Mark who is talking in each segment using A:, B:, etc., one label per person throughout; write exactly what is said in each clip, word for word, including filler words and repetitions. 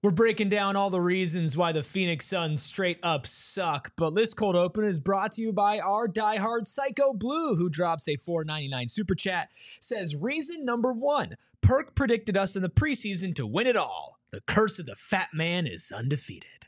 A: We're breaking down all the reasons why the Phoenix Suns straight up suck, but this cold open is brought to you by our diehard Psycho Blue, who drops a four ninety-nine super chat. Says, reason number one, Perk predicted us in the preseason to win it all. The curse of the fat man is undefeated.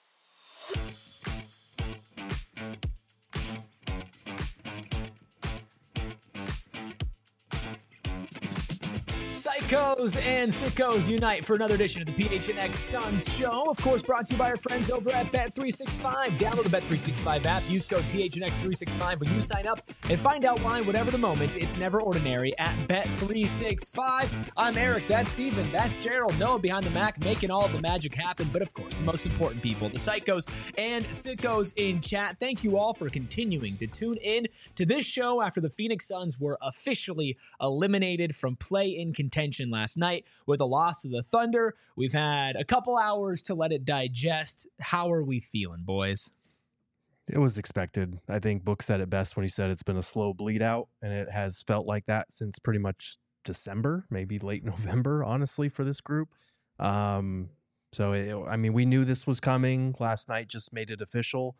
A: Psychos and sickos unite for another edition of the P H N X Suns show. Of course, brought to you by our friends over at Bet three sixty-five. Download the Bet three sixty-five app. Use code P H N X three sixty-five when you sign up and find out why, whatever the moment, it's never ordinary at Bet three sixty-five. I'm Eric. That's Steven. That's Gerald. Noah behind the Mac, making all of the magic happen. But of course, the most important people, the psychos and sickos in chat. Thank you all for continuing to tune in to this show after the Phoenix Suns were officially eliminated from play-in contention last night with a loss to the Thunder. We've had a couple hours to let it digest. How are we feeling, boys?
B: It was expected. I think Book said it best when he said it's been a slow bleed out, and it has felt like that since pretty much December, maybe late November, honestly, for this group. Um, so, it, I mean, we knew this was coming. Last night just made it official,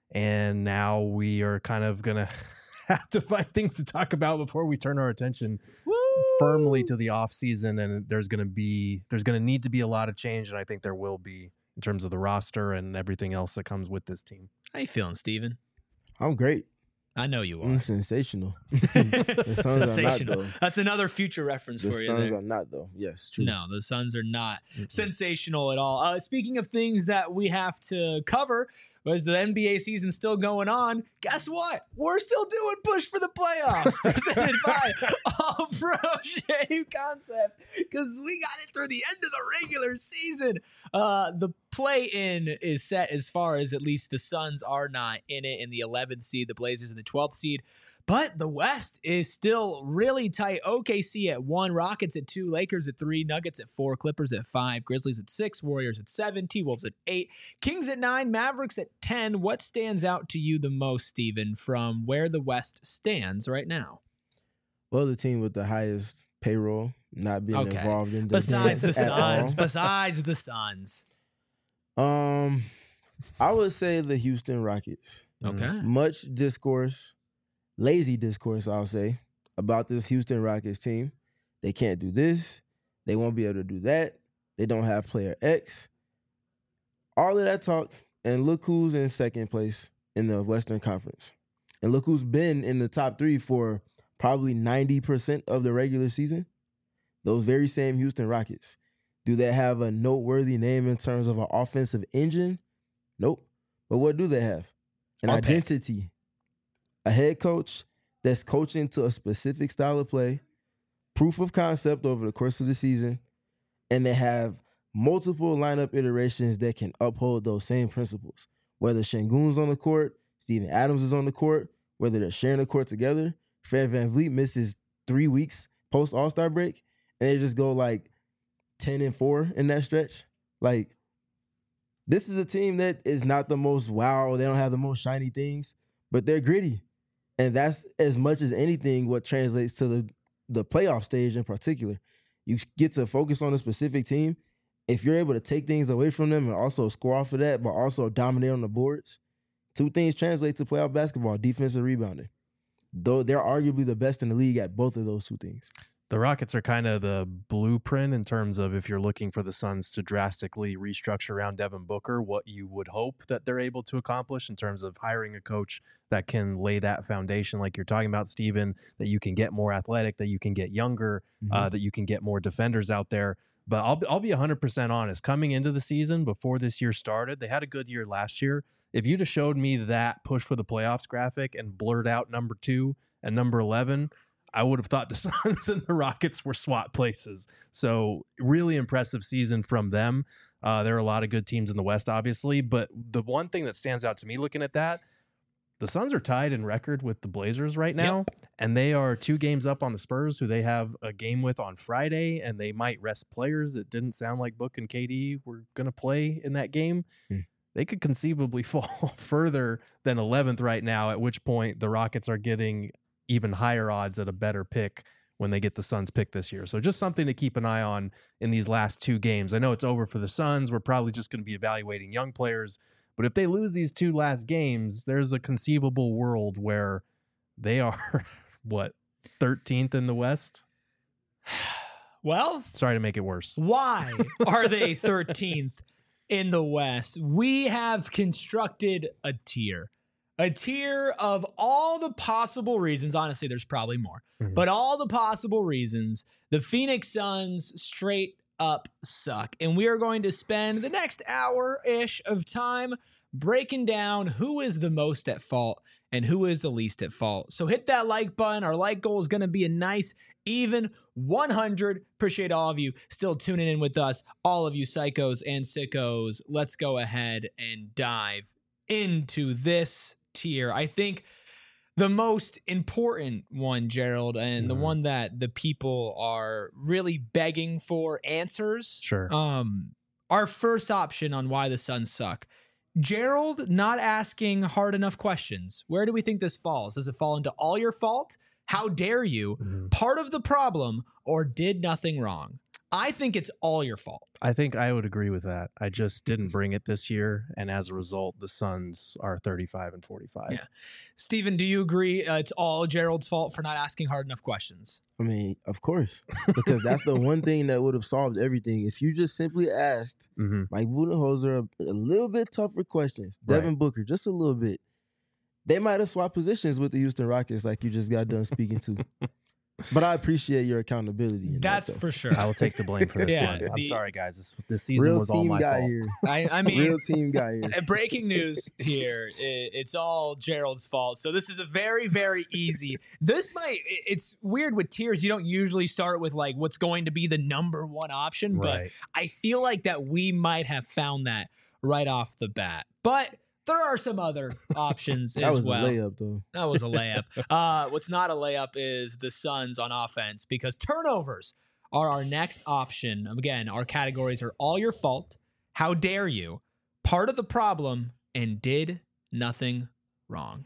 B: and now we are kind of going to have to find things to talk about before we turn our attention Woo! firmly to the off season. And there's going to be, there's going to need to be a lot of change. And I think there will be in terms of the roster and everything else that comes with this team.
A: How you feeling, Steven?
C: I'm great.
A: I know you are.
C: I'm sensational. The Suns
A: sensational.
C: are not, though.
A: That's another future reference
C: the
A: for you.
C: The Suns
A: there.
C: are not, though. Yes, true.
A: No, the Suns are not
C: Mm-mm.
A: sensational at all. Uh, speaking of things that we have to cover, as the N B A season still going on, guess what? We're still doing Push for the Playoffs, presented by All Pro Shave Concepts, because we got it through the end of the regular season. Uh, the play-in is set as far as at least the Suns are not in it in the eleventh seed, the Blazers in the twelfth seed. But the West is still really tight. O K C at one, Rockets at two, Lakers at three, Nuggets at four, Clippers at five, Grizzlies at six, Warriors at seven, T-Wolves at eight, Kings at nine, Mavericks at ten. What stands out to you the most, Steven, from where the West stands right now?
C: Well, the team with the highest payroll not being
A: Okay.
C: involved in the
A: Besides the
C: dance at
A: Suns,
C: all.
A: besides the Suns.
C: Um, I would say the Houston Rockets.
A: Okay.
C: Much discourse, lazy discourse, I'll say, about this Houston Rockets team. They can't do this. They won't be able to do that. They don't have player X. All of that talk, and look who's in second place in the Western Conference. And look who's been in the top three for probably ninety percent of the regular season. Those very same Houston Rockets. Do they have a noteworthy name in terms of an offensive engine? Nope. But what do they have? An
A: Or pick.
C: identity. A head coach that's coaching to a specific style of play, proof of concept over the course of the season, and they have multiple lineup iterations that can uphold those same principles. Whether Şengün's on the court, Steven Adams is on the court, whether they're sharing the court together, Fred VanVleet misses three weeks post All-Star break, and they just go like ten and four in that stretch. Like, this is a team that is not the most wow, they don't have the most shiny things, but they're gritty. And that's as much as anything what translates to the, the playoff stage in particular. You get to focus on a specific team. If you're able to take things away from them and also score off of that, but also dominate on the boards, two things translate to playoff basketball, defense and rebounding. Though they're arguably the best in the league at both of those two things.
B: The Rockets are kind of the blueprint in terms of if you're looking for the Suns to drastically restructure around Devin Booker, what you would hope that they're able to accomplish in terms of hiring a coach that can lay that foundation like you're talking about, Steven, that you can get more athletic, that you can get younger, mm-hmm. uh, that you can get more defenders out there. But I'll, I'll be one hundred percent honest. Coming into the season, before this year started, they had a good year last year. If you'd have showed me that push for the playoffs graphic and blurred out number two and number eleven, I would have thought the Suns and the Rockets were swap places. So really impressive season from them. Uh, there are a lot of good teams in the West, obviously. But the one thing that stands out to me looking at that, the Suns are tied in record with the Blazers right now. Yep. And they are two games up on the Spurs, who they have a game with on Friday. And they might rest players. It didn't sound like Book and K D were going to play in that game. Hmm. They could conceivably fall further than eleventh right now, at which point the Rockets are getting even higher odds at a better pick when they get the Suns pick this year. So just something to keep an eye on in these last two games. I know it's over for the Suns. We're probably just going to be evaluating young players. But if they lose these two last games, there's a conceivable world where they are, what, thirteenth in the West?
A: Well,
B: sorry to make it worse.
A: Why are they thirteenth in the West? We have constructed a tier. A tier of all the possible reasons. Honestly, there's probably more. Mm-hmm. But all the possible reasons the Phoenix Suns straight up suck. And we are going to spend the next hour-ish of time breaking down who is the most at fault and who is the least at fault. So hit that like button. Our like goal is going to be a nice, even one hundred. Appreciate all of you still tuning in with us. All of you psychos and sickos. Let's go ahead and dive into this tier. I think the most important one, Gerald, and mm. the one that the people are really begging for answers.
B: Sure.
A: Um, our first option on why the Suns suck. Gerald not asking hard enough questions. Where do we think this falls? Does it fall into all your fault? How dare you? Mm-hmm. Part of the problem, or did nothing wrong? I think it's all your fault.
B: I think I would agree with that. I just didn't bring it this year, and as a result, the Suns are thirty-five and forty-five.
A: Yeah, Steven, do you agree uh, it's all Gerald's fault for not asking hard enough questions?
C: I mean, of course, because that's the one thing that would have solved everything. If you just simply asked mm-hmm. Mike Budenholzer a, a little bit tougher questions, Devin right. Booker, just a little bit, they might have swapped positions with the Houston Rockets like you just got done speaking to. But I appreciate your accountability.
A: That's
C: that,
A: for sure.
B: I will take the blame for this
A: yeah,
B: one. I'm
A: the,
B: sorry, guys. This, this season
C: real
B: was all my
C: guy
B: fault.
C: Here.
A: I, I mean,
C: real team guy here.
A: Breaking news here. It, it's all Gerald's fault. So this is a very, very easy. This might. It's weird with tiers. You don't usually start with like what's going to be the number one option,
B: right.
A: but I feel like that we might have found that right off the bat. But there are some other options
C: that
A: as
C: was
A: well.
C: A layup, though.
A: That was a layup. Uh, what's not a layup is the Suns on offense, because turnovers are our next option. Again, our categories are all your fault, how dare you, part of the problem, and did nothing wrong.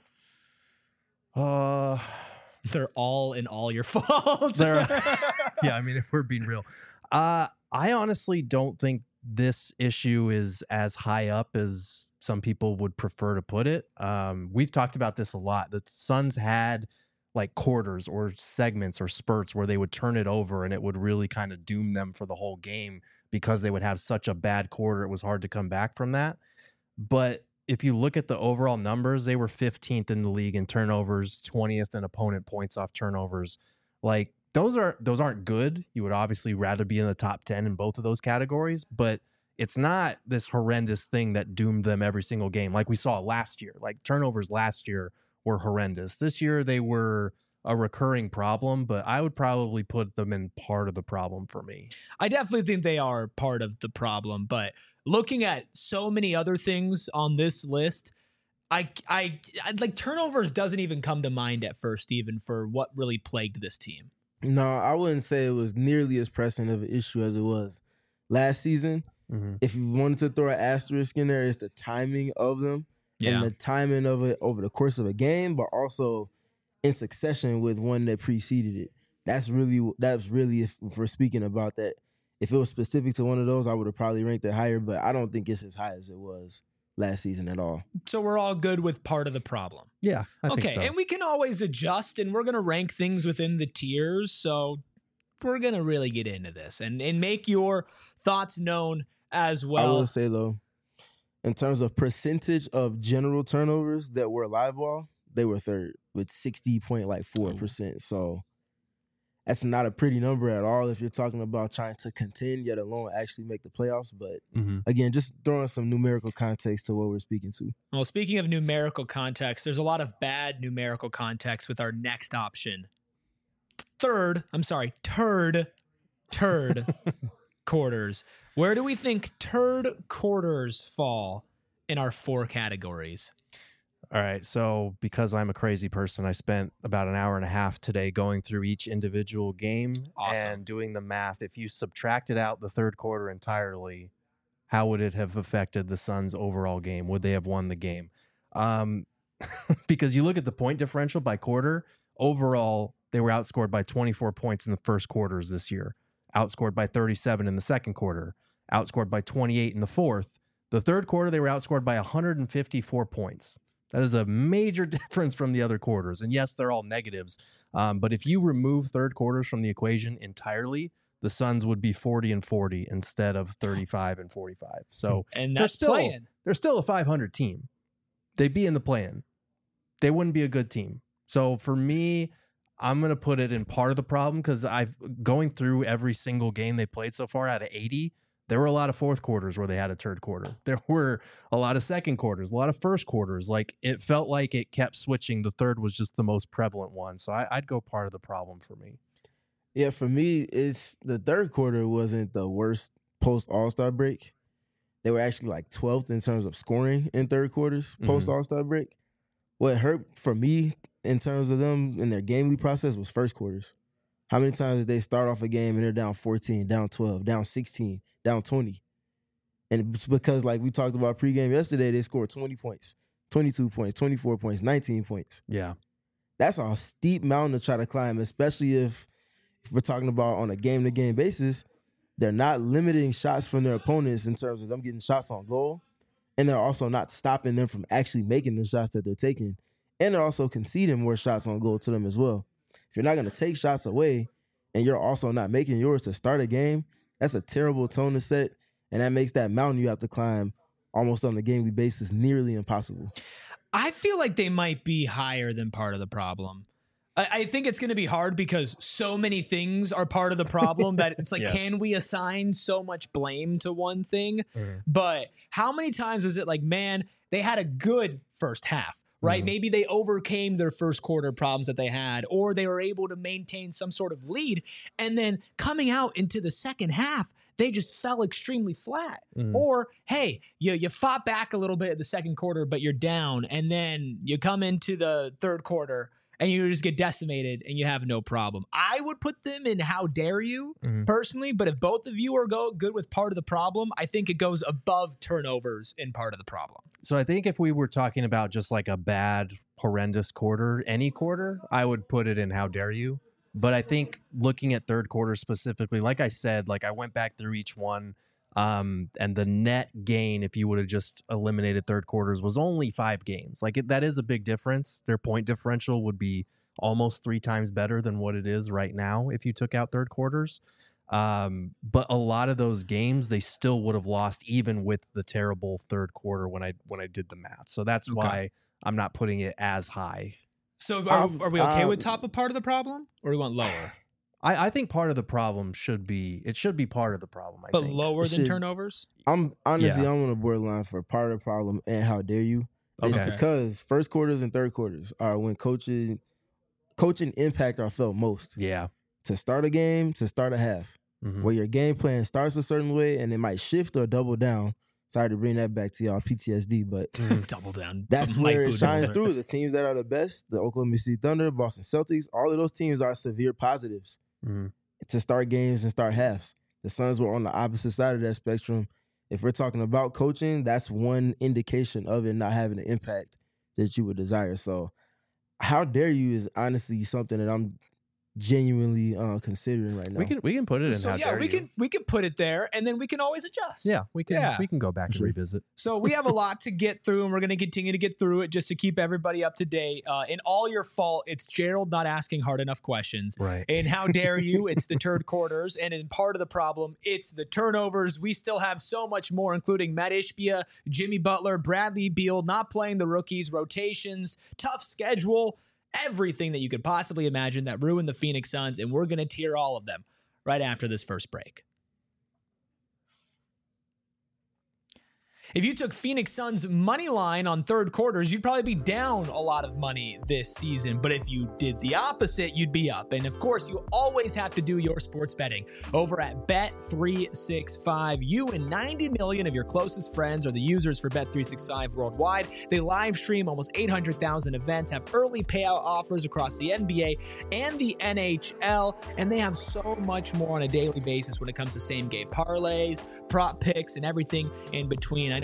B: Uh,
A: They're all in all your fault.
B: Yeah, I mean, if we're being real. Uh, I honestly don't think this issue is as high up as some people would prefer to put it. Um, we've talked about this a lot. The Suns had like quarters or segments or spurts where they would turn it over and it would really kind of doom them for the whole game because they would have such a bad quarter. It was hard to come back from that. But if you look at the overall numbers, they were fifteenth in the league in turnovers, twentieth in opponent points off turnovers. Like those are those aren't good. You would obviously rather be in the top ten in both of those categories, but it's not this horrendous thing that doomed them every single game like we saw last year. Like turnovers last year were horrendous. This year they were a recurring problem, but I would probably put them in part of the problem for me.
A: I definitely think they are part of the problem, but looking at so many other things on this list, I, I, I like turnovers doesn't even come to mind at first, even for what really plagued this team.
C: No, I wouldn't say it was nearly as pressing of an issue as it was last season. Mm-hmm. If you wanted to throw an asterisk in there, it's the timing of them yeah. and the timing of it over the course of a game, but also in succession with one that preceded it. That's really, that's really, if we're speaking about that, if it was specific to one of those, I would have probably ranked it higher, but I don't think it's as high as it was last season at all.
A: So we're all good with part of the problem.
B: Yeah, I
A: okay,
B: think so.
A: And we can always adjust, and we're going to rank things within the tiers, so we're going to really get into this and, and make your thoughts known as well.
C: I will say, though, in terms of percentage of general turnovers that were live ball, they were third with sixty point four percent. So that's not a pretty number at all if you're talking about trying to contend, yet alone actually make the playoffs. But mm-hmm. again, just throwing some numerical context to what we're speaking to.
A: Well, speaking of numerical context, there's a lot of bad numerical context with our next option. Third, I'm sorry, turd, turd quarters. Where do we think turd quarters fall in our four categories?
B: All right, so because I'm a crazy person, I spent about an hour and a half today going through each individual game
A: awesome.
B: and doing the math. If you subtracted out the third quarter entirely, how would it have affected the Suns' overall game? Would they have won the game? Um, because you look at the point differential by quarter, Overall, they were outscored by twenty-four points in the first quarters this year, outscored by thirty-seven in the second quarter, outscored by twenty-eight in the fourth. The third quarter, they were outscored by one hundred fifty-four points. That is a major difference from the other quarters. And yes, they're all negatives. Um, but if you remove third quarters from the equation entirely, the Suns would be forty and forty instead of thirty-five and forty-five. So
A: and
B: they're
A: that's
B: still,
A: playing.
B: They're still a five hundred team. They'd be in the play-in. They wouldn't be a good team. So for me, I'm going to put it in part of the problem because I've going through every single game they played so far out of eighty. There were a lot of fourth quarters where they had a third quarter. There were a lot of second quarters, a lot of first quarters. Like it felt like it kept switching. The third was just the most prevalent one. So I, I'd go part of the problem for me.
C: Yeah, for me, it's the third quarter wasn't the worst post All-Star break. They were actually like twelfth in terms of scoring in third quarters post All-Star break. What hurt for me in terms of them in their game week process was first quarters. How many times did they start off a game and they're down fourteen, down twelve, down sixteen, down twenty? And it's because, like we talked about pregame yesterday, they scored twenty points, twenty-two points, twenty-four points, nineteen points.
B: Yeah.
C: That's a steep mountain to try to climb, especially if, if we're talking about on a game-to-game basis. They're not limiting shots from their opponents in terms of them getting shots on goal, and they're also not stopping them from actually making the shots that they're taking. And they're also conceding more shots on goal to them as well. If you're not going to take shots away and you're also not making yours to start a game, that's a terrible tone to set, and that makes that mountain you have to climb almost on a game-week basis nearly impossible.
A: I feel like they might be higher than part of the problem. I, I think it's going to be hard because so many things are part of the problem that it's like,
B: Yes.
A: can we assign so much blame to one thing?
B: Mhm.
A: But how many times is it like, man, they had a good first half, right?
B: Mhm.
A: Maybe they overcame their first quarter problems that they had, or they were able to maintain some sort of lead. And then coming out into the second half, they just fell extremely flat.
B: Mhm.
A: Or, hey, you, you fought back a little bit at the second quarter, but you're down. And then you come into the third quarter and you just get decimated and you have no problem. I would put them in how dare you
B: Mhm.
A: personally, but if both of you are go good with part of the problem, I think it goes above turnovers in part of the problem.
B: So I think if we were talking about just like a bad, horrendous quarter, any quarter, I would put it in how dare you. But I think looking at third quarter specifically, like I said, like I went back through each one, um, and the net gain, if you would have just eliminated third quarters, was only five games. Like it, that is a big difference. Their point differential would be almost three times better than what it is right now if you took out third quarters. Um, but a lot of those games, they still would have lost even with the terrible third quarter when I when I did the math. So that's
A: Okay.
B: why I'm not putting it as high.
A: So are,
C: Um,
A: are we okay
C: um,
A: with top of part of the problem, or do we want lower?
B: I, I think part of the problem should be it should be part of the problem. I
A: But
B: think.
A: lower
C: It
A: than
C: should-
A: turnovers?
C: I'm honestly,
B: Yeah.
C: I'm on the borderline for part of the problem and how dare you. It's
B: Okay.
C: because first quarters and third quarters are when coaching coaching impact are felt most.
B: Yeah.
C: To start a game, to start a half,
B: Mhm.
C: where your game plan starts a certain way and it might shift or double down. Sorry to bring that back to y'all P T S D, but
A: Double down.
C: that's
A: Mike
C: where it shines
A: Budenholzer.
C: through. The teams that are the best, the Oklahoma City Thunder, Boston Celtics, all of those teams are severe positives
B: Mhm.
C: to start games and start halves. The Suns were on the opposite side of that spectrum. If we're talking about coaching, that's one indication of it not having the impact that you would desire. So how dare you is honestly something that I'm genuinely uh, considering right now.
B: We can we can put it in
A: So
B: how
A: yeah,
B: dare
A: we
B: you.
A: can we can put it there, and then we can always adjust.
B: Yeah, we can
A: Yeah.
B: we can go back and
C: Sure.
B: revisit.
A: So we have a lot to get through, and we're going to continue to get through it just to keep everybody up to date. Uh, in all your fault, it's Gerald not asking hard enough questions.
B: Right.
A: And how dare you? It's the third quarters, and in part of the problem, it's the turnovers. We still have so much more, including Matt Ishbia, Jimmy Butler, Bradley Beal not playing the rookies, rotations, tough schedule, everything that you could possibly imagine that ruined the Phoenix Suns, and we're going to tier all of them right after this first break. If you took Phoenix Suns money line on third quarters, you'd probably be down a lot of money this season. But if you did the opposite, you'd be up. And of course, you always have to do your sports betting over at Bet three sixty-five. You and ninety million of your closest friends are the users for Bet three sixty-five worldwide. They live stream almost eight hundred thousand events, have early payout offers across the N B A and the N H L, and they have so much more on a daily basis when it comes to same game parlays, prop picks, and everything in between. I know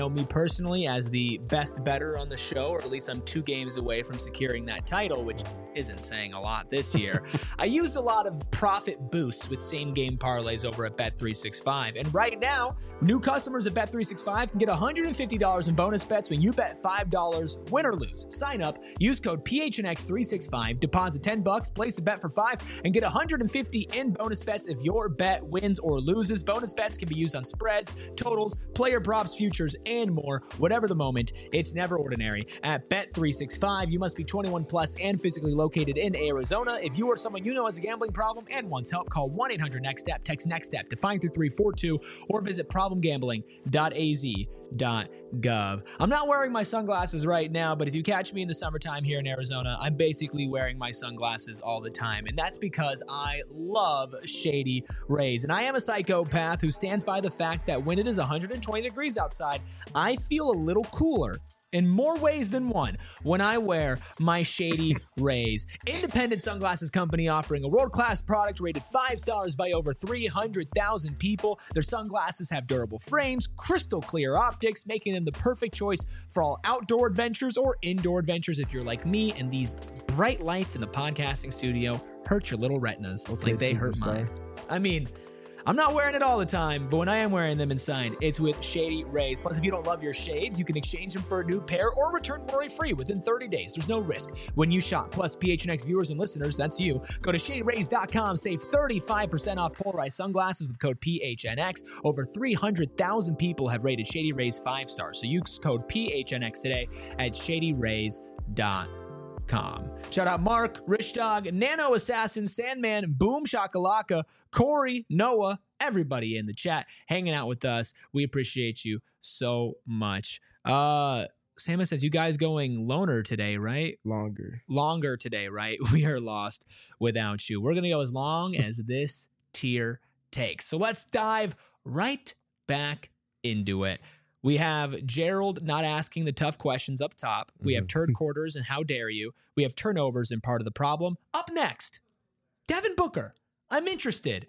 A: know me personally as the best bettor on the show, or at least I'm two games away from securing that title, which isn't saying a lot this year. I used a lot of profit boosts with same-game parlays over at Bet three sixty-five. And right now, new customers at Bet three sixty-five can get one hundred fifty dollars in bonus bets when you bet five dollars, win or lose. Sign up, use code P H N X three sixty-five, deposit ten bucks, place a bet for five, and get one hundred fifty in bonus bets if your bet wins or loses. Bonus bets can be used on spreads, totals, player props, futures, and more. Whatever the moment, it's never ordinary. At Bet three sixty-five, you must be twenty-one plus and physically located in Arizona. If you or someone you know has a gambling problem and wants help, call one eight hundred next step, text NEXTSTEP to five three three four two, or visit problem gambling dot a z dot gov. I'm not wearing my sunglasses right now, but if you catch me in the summertime here in Arizona, I'm basically wearing my sunglasses all the time, and that's because I love Shady Rays. And I am a psychopath who stands by the fact that when it is one hundred twenty degrees outside, I feel a little cooler in more ways than one when I wear my Shady Rays. Independent sunglasses company offering a world-class product rated five stars by over three hundred thousand people. Their sunglasses have durable frames, crystal clear optics, making them the perfect choice for all outdoor adventures or indoor adventures if you're like me and these bright lights in the podcasting studio hurt your little retinas
C: Okay,
A: like they hurt
C: superstar.
A: mine. I mean, I'm not wearing it all the time, but when I am wearing them inside, it's with Shady Rays. Plus, if you don't love your shades, you can exchange them for a new pair or return worry-free within thirty days. There's no risk when you shop. Plus, P H N X viewers and listeners, that's you. Go to shady rays dot com, save thirty-five percent off polarized sunglasses with code P H N X. Over three hundred thousand people have rated Shady Rays five stars, so use code P H N X today at shady rays dot com. Shout out Mark, Rich Dog, Nano Assassin, Sandman, Boom Shakalaka, Corey, Noah, everybody in the chat hanging out with us. We appreciate you so much. Uh, Sama says, you guys going loner today, right?
C: Longer.
A: Longer today, right? We are lost without you. We're going to go as long as this tier takes. So let's dive right back into it. We have Gerald not asking the tough questions up top. We have turd quarters and how dare you. We have turnovers and part of the problem. Up next, Devin Booker. I'm interested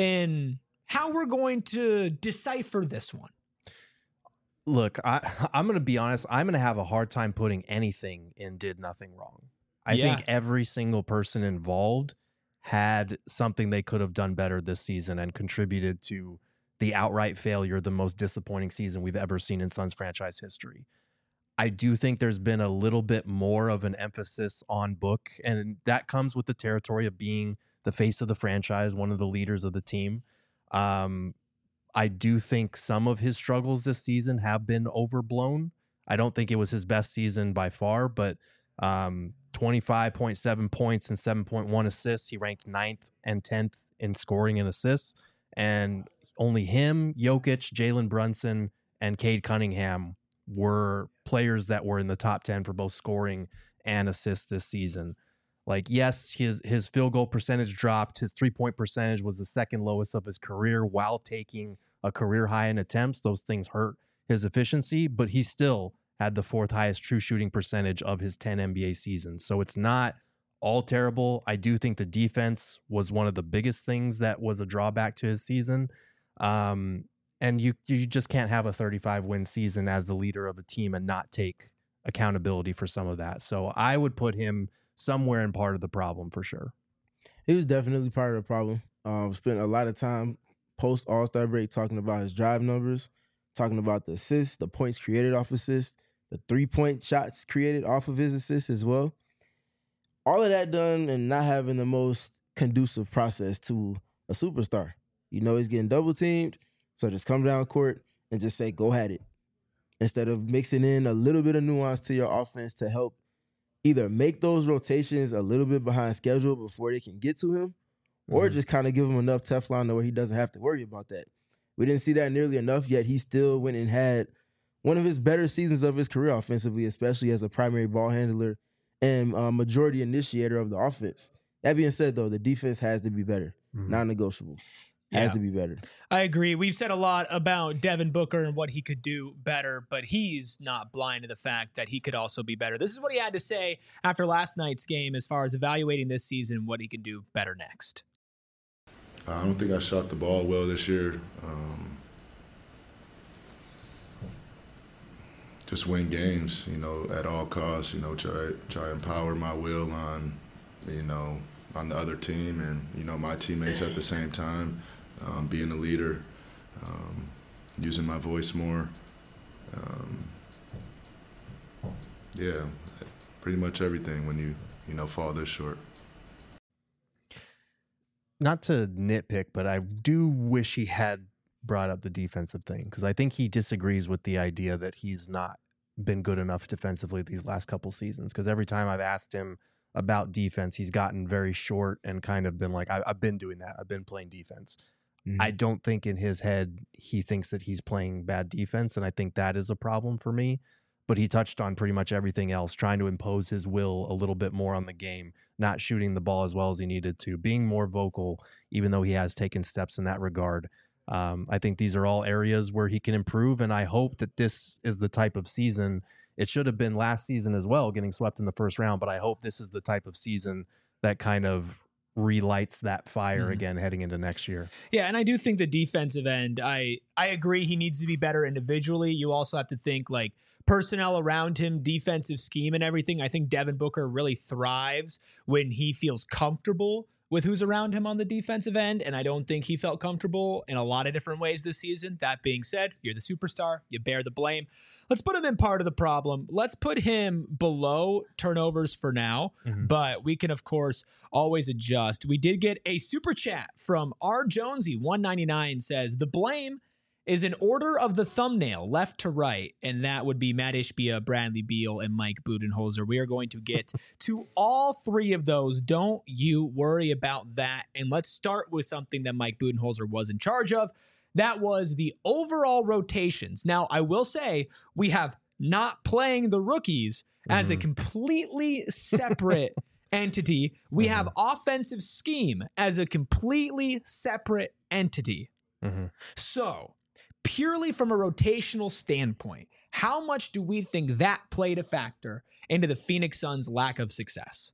A: in how we're going to decipher this one.
B: Look, I, I'm going to be honest. I'm going to have a hard time putting anything in did nothing wrong. I
A: Yeah.
B: think every single person involved had something they could have done better this season and contributed to the outright failure, the most disappointing season we've ever seen in Suns franchise history. I do think there's been a little bit more of an emphasis on Book, and that comes with the territory of being the face of the franchise, one of the leaders of the team. Um, I do think some of his struggles this season have been overblown. I don't think it was his best season by far, but um, twenty-five point seven points and seven point one assists. He ranked ninth and tenth in scoring and assists. And only him, Jokic, Jalen Brunson, and Cade Cunningham were players that were in the top ten for both scoring and assists this season. Like, yes, his his field goal percentage dropped. His three-point percentage was the second lowest of his career while taking a career high in attempts. Those things hurt his efficiency, but he still had the fourth highest true shooting percentage of his ten N B A seasons. So it's not all terrible. I do think the defense was one of the biggest things that was a drawback to his season. Um, and you you just can't have a thirty-five win season as the leader of a team and not take accountability for some of that. So I would put him somewhere in part of the problem for sure.
C: He was definitely part of the problem. Um, spent a lot of time post All-Star break talking about his drive numbers, talking about the assists, the points created off assists, the three-point shots created off of his assists as well. All of that done and not having the most conducive process to a superstar. You know he's getting double teamed, so just come down court and just say, go at it. Instead of mixing in a little bit of nuance to your offense to help either make those rotations a little bit behind schedule before they can get to him, or
B: Mm-hmm.
C: just kind of give him enough Teflon to where he doesn't have to worry about that. We didn't see that nearly enough, yet he still went and had one of his better seasons of his career offensively, especially as a primary ball handler and uh, majority initiator of the offense. That being said, though, the defense has to be better.
B: Mhm.
C: Non-negotiable. Has
A: Yeah.
C: to be better.
A: I agree. We've said a lot about Devin Booker and what he could do better, but he's not blind to the fact that he could also be better. This is what he had to say after last night's game as far as evaluating this season, what he can do better next.
D: I don't think I shot the ball well this year. Um, just win games, you know, at all costs, you know, try try empower my will on, you know, on the other team and, you know, my teammates at the same time, um, being a leader, um, using my voice more. Um, yeah, pretty much everything when you, you know, fall this short.
B: Not to nitpick, but I do wish he had brought up the defensive thing, because I think he disagrees with the idea that he's not been good enough defensively these last couple seasons. Because every time I've asked him about defense, he's gotten very short and kind of been like, I, I've been doing that. I've been playing defense. Mm-hmm. I don't think in his head he thinks that he's playing bad defense, and I think that is a problem for me. But he touched on pretty much everything else, trying to impose his will a little bit more on the game, not shooting the ball as well as he needed to, being more vocal, even though he has taken steps in that regard. Um, I think these are all areas where he can improve, and I hope that this is the type of season. It should have been last season as well, getting swept in the first round, but I hope this is the type of season that kind of relights that fire mm. again heading into next year.
A: Yeah, and I do think the defensive end, I I agree he needs to be better individually. You also have to think like personnel around him, defensive scheme and everything. I think Devin Booker really thrives when he feels comfortable with who's around him on the defensive end, and I don't think he felt comfortable in a lot of different ways this season. That being said, you're the superstar. You bear the blame. Let's put him in part of the problem. Let's put him below turnovers for now, mm-hmm. but we can, of course, always adjust. We did get a super chat from R. Jonesy, one ninety-nine, says, the blame is in order of the thumbnail, left to right, and that would be Matt Ishbia, Bradley Beal, and Mike Budenholzer. We are going to get to all three of those. Don't you worry about that. And let's start with something that Mike Budenholzer was in charge of. That was the overall rotations. Now, I will say we have not playing the rookies mm-hmm. as a completely separate entity. We mm-hmm. have offensive scheme as a completely separate entity. Mm-hmm. So, purely from a rotational standpoint, how much do we think that played a factor into the Phoenix Suns' lack of success?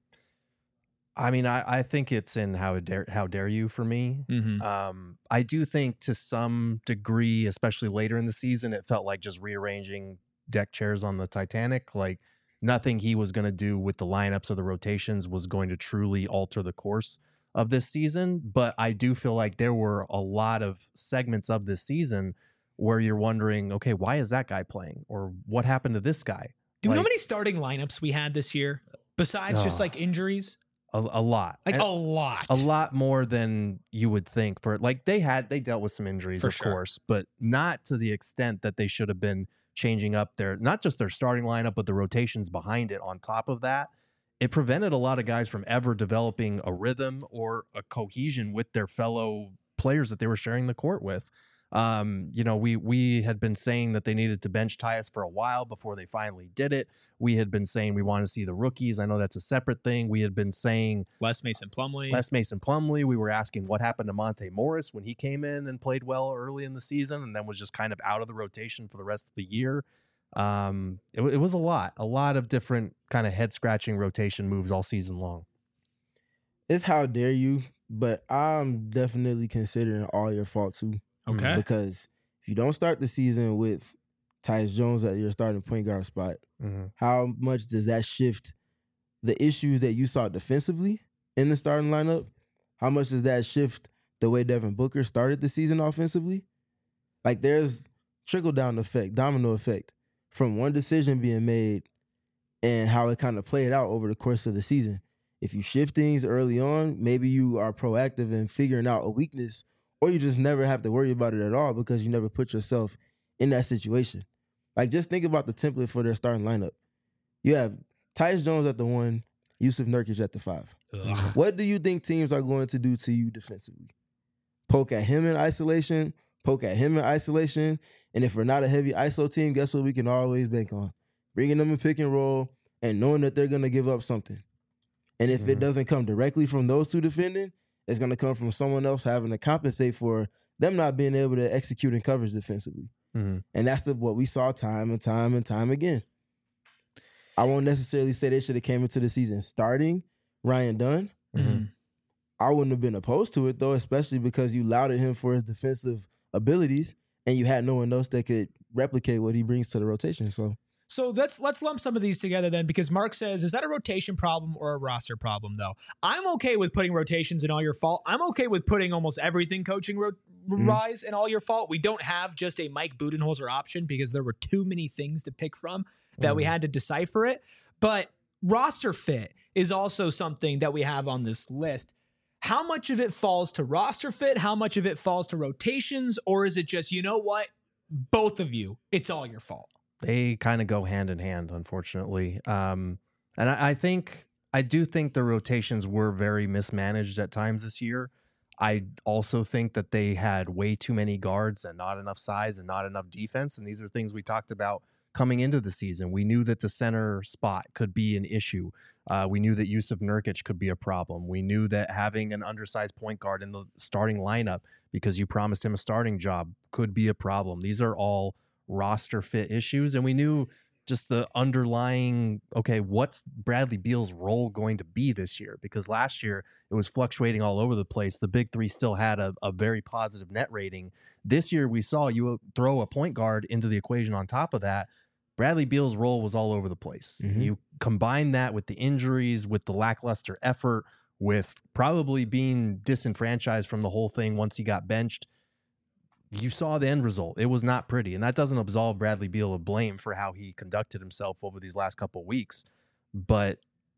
B: I mean, I, I think it's in how dare how dare you for me. Mm-hmm. Um, I do think to some degree, especially later in the season, it felt like just rearranging deck chairs on the Titanic. Like nothing he was going to do with the lineups or the rotations was going to truly alter the course of this season. But I do feel like there were a lot of segments of this season where you're wondering, okay, why is that guy playing? Or what happened to this guy?
A: Do
B: like,
A: you know how many starting lineups we had this year besides uh, just like injuries?
B: A, a lot.
A: Like
B: and
A: a lot.
B: A lot more than you would think. For like they had, they dealt with some injuries,
A: for
B: of
A: sure.
B: course, but not to the extent that they should have been changing up their, not just their starting lineup, but the rotations behind it on top of that. It prevented a lot of guys from ever developing a rhythm or a cohesion with their fellow players that they were sharing the court with. Um, you know, we we had been saying that they needed to bench Tyus for a while before they finally did it. We had been saying we want to see the rookies. I know that's a separate thing. We had been saying
A: Les Mason Plumlee.
B: Les Mason Plumlee. We were asking what happened to Monte Morris when he came in and played well early in the season and then was just kind of out of the rotation for the rest of the year. Um, it, it was a lot, a lot of different kind of head scratching rotation moves all season long.
C: It's how dare you, but I'm definitely considering all your fault too.
A: Okay.
C: Because if you don't start the season with Tyus Jones at your starting point guard spot, mm-hmm. how much does that shift the issues that you saw defensively in the starting lineup? How much does that shift the way Devin Booker started the season offensively? Like there's trickle-down effect, domino effect from one decision being made and how it kind of played out over the course of the season. If you shift things early on, maybe you are proactive in figuring out a weakness, or you just never have to worry about it at all because you never put yourself in that situation. Like, just think about the template for their starting lineup. You have Tyus Jones at the one, Yusuf Nurkic at the five. Ugh. What do you think teams are going to do to you defensively? Poke at him in isolation, poke at him in isolation, and if we're not a heavy I S O team, guess what we can always bank on? Bringing them in pick and roll and knowing that they're going to give up something. And if mm-hmm. it doesn't come directly from those two defending, it's going to come from someone else having to compensate for them not being able to execute in coverage defensively. Mm-hmm. And that's the, what we saw time and time and time again. I won't necessarily say they should have came into the season starting Ryan Dunn. Mm-hmm. I wouldn't have been opposed to it, though, especially because you lauded him for his defensive abilities and you had no one else that could replicate what he brings to the rotation. So
A: So let's let's lump some of these together then, because Mark says, is that a rotation problem or a roster problem, though? I'm okay with putting rotations in all your fault. I'm okay with putting almost everything coaching ro- mm-hmm. rise in all your fault. We don't have just a Mike Budenholzer option because there were too many things to pick from that mm. we had to decipher it. But roster fit is also something that we have on this list. How much of it falls to roster fit? How much of it falls to rotations? Or is it just, you know what? Both of you, it's all your fault.
B: They kind of go hand in hand, unfortunately. Um, and I, I think, I do think the rotations were very mismanaged at times this year. I also think that they had way too many guards and not enough size and not enough defense. And these are things we talked about coming into the season. We knew that the center spot could be an issue. Uh, we knew that Yusuf Nurkic could be a problem. We knew that having an undersized point guard in the starting lineup because you promised him a starting job could be a problem. These are all roster fit issues, and we knew just the underlying, okay, what's Bradley Beal's role going to be this year? Because last year it was fluctuating all over the place. The big three still had a, a very positive net rating. This year we saw you throw a point guard into the equation on top of that. Bradley Beal's role was all over the place. Mm-hmm. You combine that with the injuries, with the lackluster effort, with probably being disenfranchised from the whole thing once he got benched. You saw the end result. It was not pretty. And that doesn't absolve Bradley Beal of blame for how he conducted himself over these last couple of weeks. But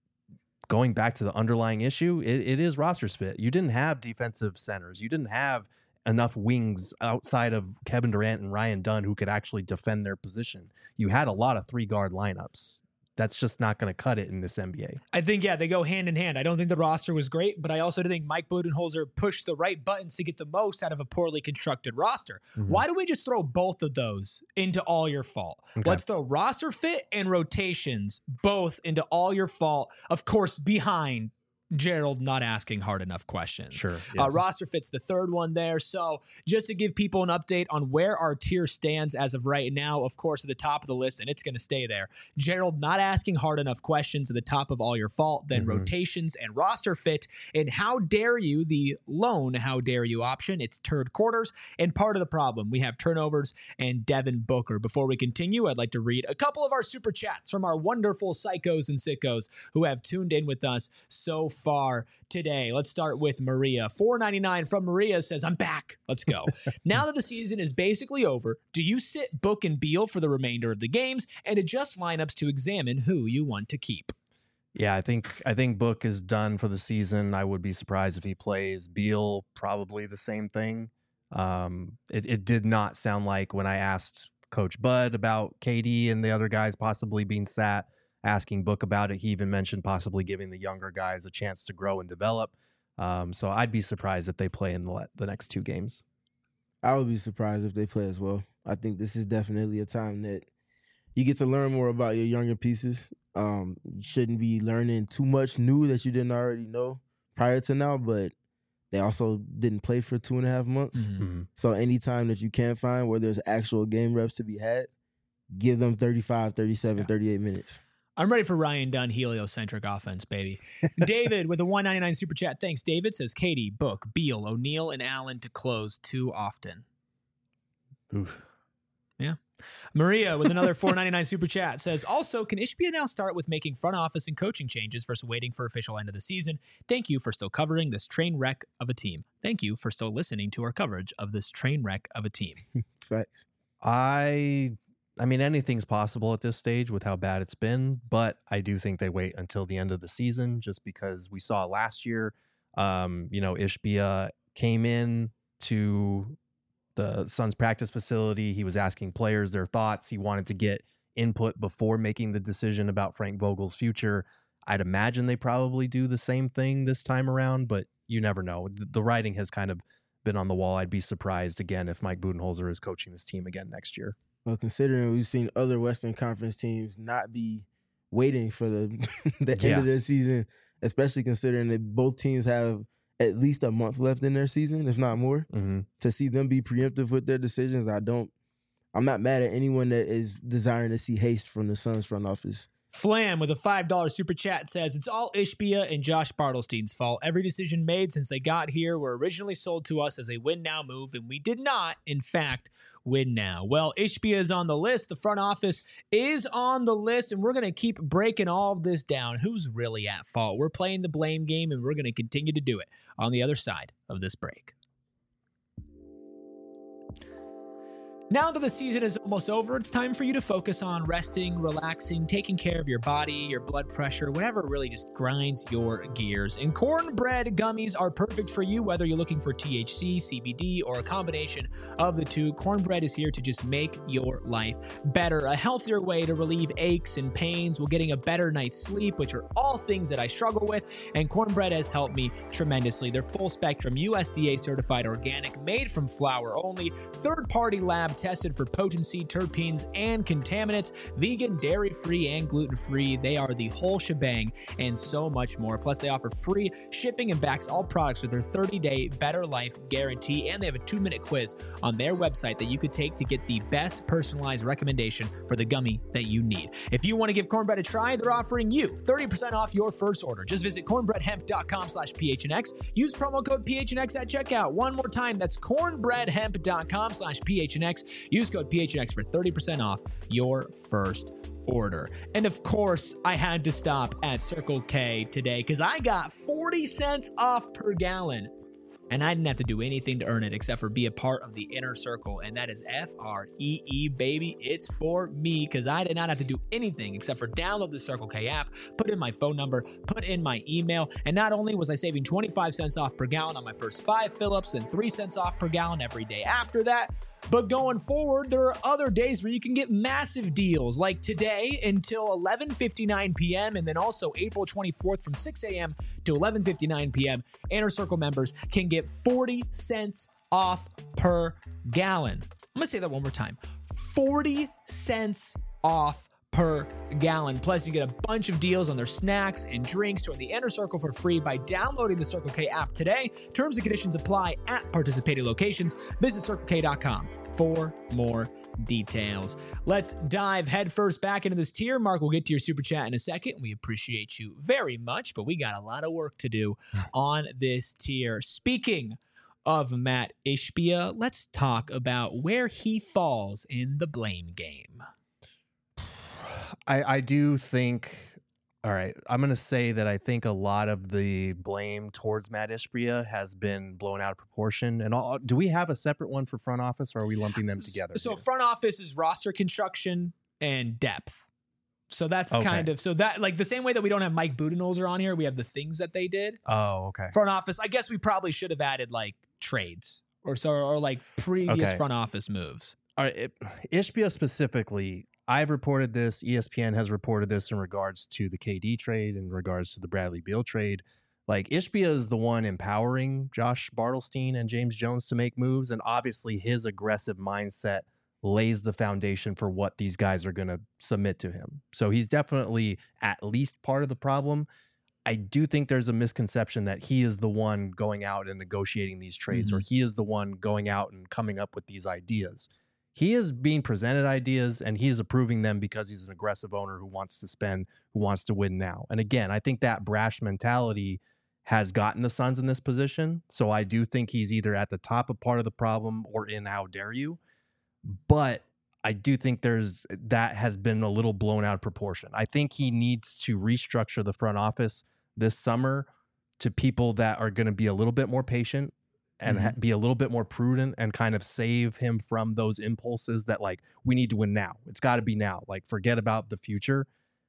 B: going back to the underlying issue, it, it is rosters fit. You didn't have defensive centers. You didn't have enough wings outside of Kevin Durant and Ryan Dunn who could actually defend their position. You had a lot of three-guard lineups. That's just not going to cut it in this N B A.
A: I think, yeah, they go hand in hand. I don't think the roster was great, but I also think Mike Budenholzer pushed the right buttons to get the most out of a poorly constructed roster. Mm-hmm. Why do we just throw both of those into all your fault? Okay. Let's throw roster fit and rotations both into all your fault, of course, behind Gerald not asking hard enough questions.
B: Sure. Yes.
A: Uh, roster fits the third one there. So just to give people an update on where our tier stands as of right now, of course, at the top of the list, and it's going to stay there. Gerald not asking hard enough questions at the top of all your fault, then mm-hmm. rotations and roster fit. And how dare you, the lone how dare you option, it's third quarters. And part of the problem, we have turnovers and Devin Booker. Before we continue, I'd like to read a couple of our super chats from our wonderful psychos and sickos who have tuned in with us so far. far today. Let's start with Maria. four ninety-nine from Maria says, I'm back. Let's go. Now that the season is basically over, do you sit Book and Beal for the remainder of the games and adjust lineups to examine who you want to keep?
B: Yeah, I think I think Book is done for the season. I would be surprised if he plays. Beal, probably the same thing. Um, it, it did not sound like when I asked Coach Bud about K D and the other guys possibly being sat, asking Book about it. He even mentioned possibly giving the younger guys a chance to grow and develop. Um, so I'd be surprised if they play in the, the next two games.
C: I would be surprised if they play as well. I think this is definitely a time that you get to learn more about your younger pieces. Um, you shouldn't be learning too much new that you didn't already know prior to now, but they also didn't play for two and a half months. Mm-hmm. So any time that you can find where there's actual game reps to be had, give them thirty-five, thirty-seven, yeah. thirty-eight minutes.
A: I'm ready for Ryan Dunn heliocentric offense, baby. David with a one ninety-nine super chat. Thanks, David. Says Katie, Book, Beal, O'Neal, and Allen to close too often.
B: Oof.
A: Yeah. Maria with another four ninety-nine super chat says, also, can Ishbia now start with making front office and coaching changes versus waiting for official end of the season? Thank you for still covering this train wreck of a team. Thank you for still listening to our coverage of this train wreck of a team.
C: Thanks.
B: I... I mean, anything's possible at this stage with how bad it's been, but I do think they wait until the end of the season just because we saw last year, um, you know, Ishbia came in to the Suns practice facility. He was asking players their thoughts. He wanted to get input before making the decision about Frank Vogel's future. I'd imagine they probably do the same thing this time around, but you never know. The, the writing has kind of been on the wall. I'd be surprised again if Mike Budenholzer is coaching this team again next year.
C: Well, considering we've seen other Western Conference teams not be waiting for the the end
B: yeah.
C: of their season, especially considering that both teams have at least a month left in their season, if not more,
B: mm-hmm.
C: to see them be preemptive with their decisions, I don't, I'm not mad at anyone that is desiring to see haste from the Suns front office
A: Flam with a five dollar super chat says, it's all Ishbia and Josh Bartelstein's fault. Every decision made since they got here were originally sold to us as a win now move, and we did not, in fact, win now. Well, Ishbia is on the list. The front office is on the list, and we're going to keep breaking all of this down. Who's really at fault? We're playing the blame game, and we're going to continue to do it on the other side of this break. Now that the season is almost over, it's time for you to focus on resting, relaxing, taking care of your body, your blood pressure, whatever really just grinds your gears. And Cornbread gummies are perfect for you, whether you're looking for T H C, C B D, or a combination of the two. Cornbread is here to just make your life better. A healthier way to relieve aches and pains while getting a better night's sleep, which are all things that I struggle with, and Cornbread has helped me tremendously. They're full spectrum, U S D A certified organic, made from flour only, third-party lab tested for potency, terpenes, and contaminants, vegan, dairy-free, and gluten-free. They are the whole shebang and so much more. Plus, they offer free shipping and backs all products with their thirty-day Better Life guarantee, and they have a two-minute quiz on their website that you could take to get the best personalized recommendation for the gummy that you need. If you want to give Cornbread a try, they're offering you thirty percent off your first order. Just visit cornbreadhemp.com slash PHNX. Use promo code P H N X at checkout. One more time, that's cornbreadhemp.com slash PHNX. Use code P H N X for thirty percent off your first order. And of course, I had to stop at Circle K today because I got forty cents off per gallon. And I didn't have to do anything to earn it except for be a part of the inner circle. And that is F R E E, baby. It's for me because I did not have to do anything except for download the Circle K app, put in my phone number, put in my email. And not only was I saving twenty-five cents off per gallon on my first five fill-ups and three cents off per gallon every day after that, but going forward, there are other days where you can get massive deals, like today until eleven fifty-nine p.m. and then also April twenty-fourth from six a.m. to eleven fifty-nine p.m. Inner Circle members can get forty cents off per gallon. I'm going to say that one more time. forty cents off per gallon. Plus, you get a bunch of deals on their snacks and drinks. Join the Inner Circle for free by downloading the Circle K app today. Terms and conditions apply at participating locations. Visit circle k dot com for more details. Let's dive headfirst back into this tier. Mark, we'll get to your super chat in a second. We appreciate you very much, but we got a lot of work to do on this tier. Speaking of Matt Ishbia, let's talk about where he falls in the blame game.
B: I, I do think, all right, I'm going to say that I think a lot of the blame towards Matt Ishbia has been blown out of proportion. And all, do we have a separate one for front office, or are we lumping them together?
A: So
B: here?
A: Front office is roster construction and depth. So that's
B: Okay.
A: kind of, so that like the same way that we don't have Mike Budenholzer on here, we have the things that they did.
B: Oh, okay.
A: Front office, I guess we probably should have added like trades or so, or like previous
B: Okay.
A: front office moves.
B: All right, it, Ishbia specifically, I've reported this, E S P N has reported this in regards to the K D trade, in regards to the Bradley Beal trade. Like, Ishbia is the one empowering Josh Bartelstein and James Jones to make moves, and obviously his aggressive mindset lays the foundation for what these guys are going to submit to him. So he's definitely at least part of the problem. I do think there's a misconception that he is the one going out and negotiating these trades,
A: Mm-hmm.
B: or he is the one going out and coming up with these ideas. He is being presented ideas and he is approving them because he's an aggressive owner who wants to spend, who wants to win now. And again, I think that brash mentality has gotten the Suns in this position. So I do think he's either at the top of part of the problem or in how dare you. But I do think there's that has been a little blown out of proportion. I think he needs to restructure the front office this summer to people that are going to be a little bit more patient and
A: Mm-hmm.
B: ha- be a little bit more prudent and kind of save him from those impulses that, like, we need to win now. It's got to be now. Like, forget about the future.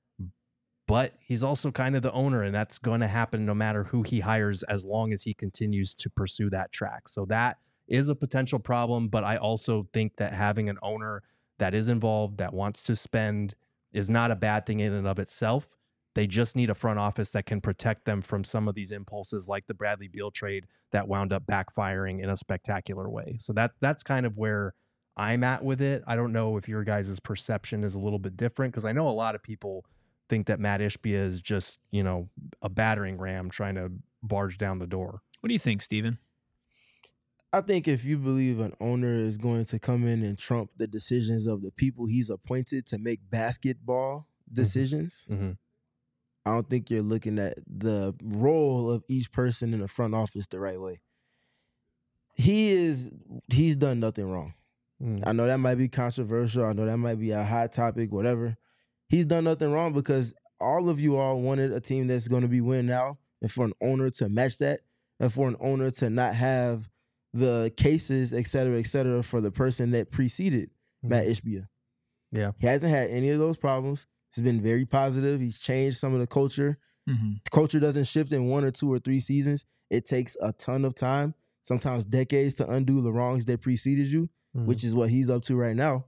B: But he's also kind of the owner, and that's going to happen no matter who he hires as long as he continues to pursue that track. So that is a potential problem, but I also think that having an owner that is involved, that wants to spend, is not a bad thing in and of itself. They just need a front office that can protect them from some of these impulses, like the Bradley Beal trade that wound up backfiring in a spectacular way. So that that's kind of where I'm at with it. I don't know if your guys' perception is a little bit different, because I know a lot of people think that Matt Ishbia is just, you know, a battering ram trying to barge down the door.
A: What do you think, Steven?
C: I think if you believe an owner is going to come in and trump the decisions of the people he's appointed to make basketball, decisions,
B: Mm-hmm.
C: I don't think you're looking at the role of each person in the front office the right way. He is, he's done nothing wrong.
B: Mm-hmm.
C: I know that might be controversial. I know that might be a hot topic, whatever. He's done nothing wrong because all of you all wanted a team that's going to be winning now, and for an owner to match that, and for an owner to not have the cases, et cetera, et cetera, for the person that preceded mm-hmm. Matt Ishbia.
B: Yeah.
C: He hasn't had any of those problems. He's been very positive. He's changed some of the culture.
A: Mm-hmm.
C: The culture doesn't shift in one or two or three seasons. It takes a ton of time, sometimes decades, to undo the wrongs that preceded you, mm-hmm. which is what he's up to right now.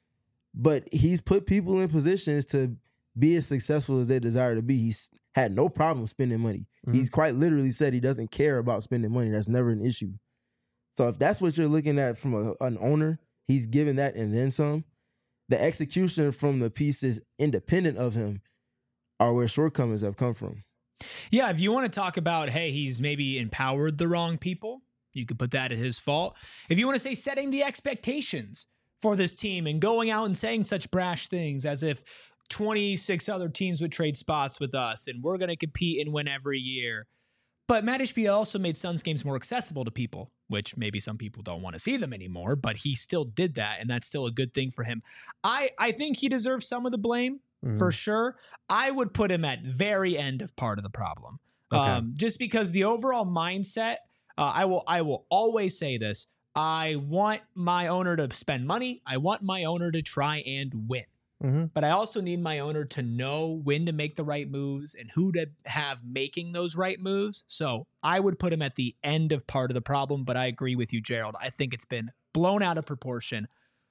C: But he's put people in positions to be as successful as they desire to be. He's had no problem spending money. Mm-hmm. He's quite literally said he doesn't care about spending money. That's never an issue. So if that's what you're looking at from a, an owner, he's given that and then some. The execution from the pieces independent of him are where shortcomings have come from.
A: Yeah, if you want to talk about, hey, he's maybe empowered the wrong people, you could put that at his fault. If you want to say setting the expectations for this team and going out and saying such brash things as if twenty-six other teams would trade spots with us and we're going to compete and win every year. But Matt Ishbia also made Suns games more accessible to people, which maybe some people don't want to see them anymore, but he still did that, and that's still a good thing for him. I, I think he deserves some of the blame, mm-hmm. for sure. I would put him at very end of part of the problem. Okay. Um, just because the overall mindset, uh, I will I will always say this, I want my owner to spend money. I want my owner to try and win. Mm-hmm. But I also need my owner to know when to make the right moves and who to have making those right moves. So I would put him at the end of part of the problem, but I agree with you, Gerald. I think it's been blown out of proportion.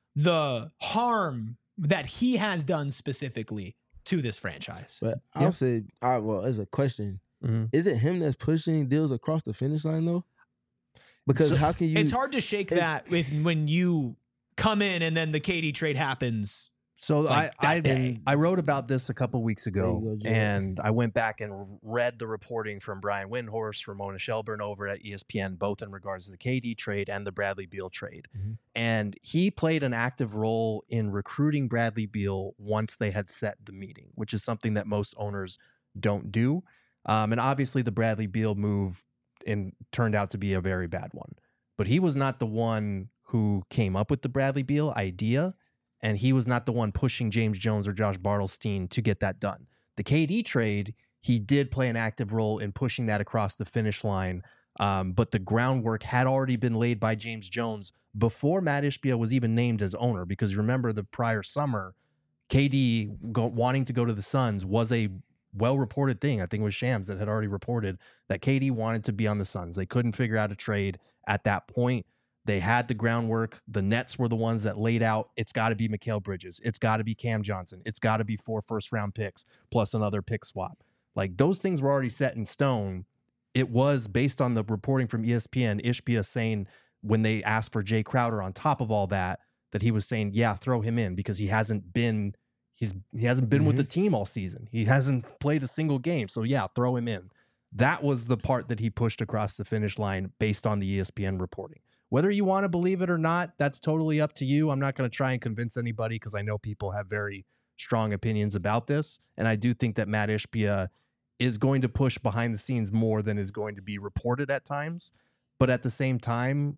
A: The harm that he has done specifically to this franchise.
C: But I'll yeah. say, I, well, as a question, mm-hmm. is it him that's pushing deals across the finish line, though? Because so, how can you...
A: It's hard to shake it, that with when you come in and then the K D trade happens.
B: So
A: like
B: I
A: I,
B: I wrote about this a couple weeks ago,
C: go,
B: and I went back and read the reporting from Brian Windhorst, Ramona Shelburne over at E S P N, both in regards to the K D trade and the Bradley Beal trade. Mm-hmm. And he played an active role in recruiting Bradley Beal once they had set the meeting, which is something that most owners don't do. Um, and obviously the Bradley Beal move in, turned out to be a very bad one. But he was not the one who came up with the Bradley Beal idea. And he was not the one pushing James Jones or Josh Bartelstein to get that done. The K D trade, he did play an active role in pushing that across the finish line. Um, but the groundwork had already been laid by James Jones before Matt Ishbia was even named as owner. Because remember, the prior summer, K D go, wanting to go to the Suns was a well-reported thing. I think it was Shams that had already reported that K D wanted to be on the Suns. They couldn't figure out a trade at that point. They had the groundwork. The Nets were the ones that laid out, it's got to be Mikal Bridges. It's got to be Cam Johnson. It's got to be four first-round picks plus another pick swap. Like, those things were already set in stone. It was based on the reporting from E S P N, Ishbia saying when they asked for Jay Crowder on top of all that, that he was saying, yeah, throw him in because he hasn't been he's he hasn't been mm-hmm. with the team all season. He hasn't played a single game. So, yeah, throw him in. That was the part that he pushed across the finish line based on the E S P N reporting. Whether you want to believe it or not, that's totally up to you. I'm not going to try and convince anybody because I know people have very strong opinions about this. And I do think that Matt Ishbia is going to push behind the scenes more than is going to be reported at times. But at the same time,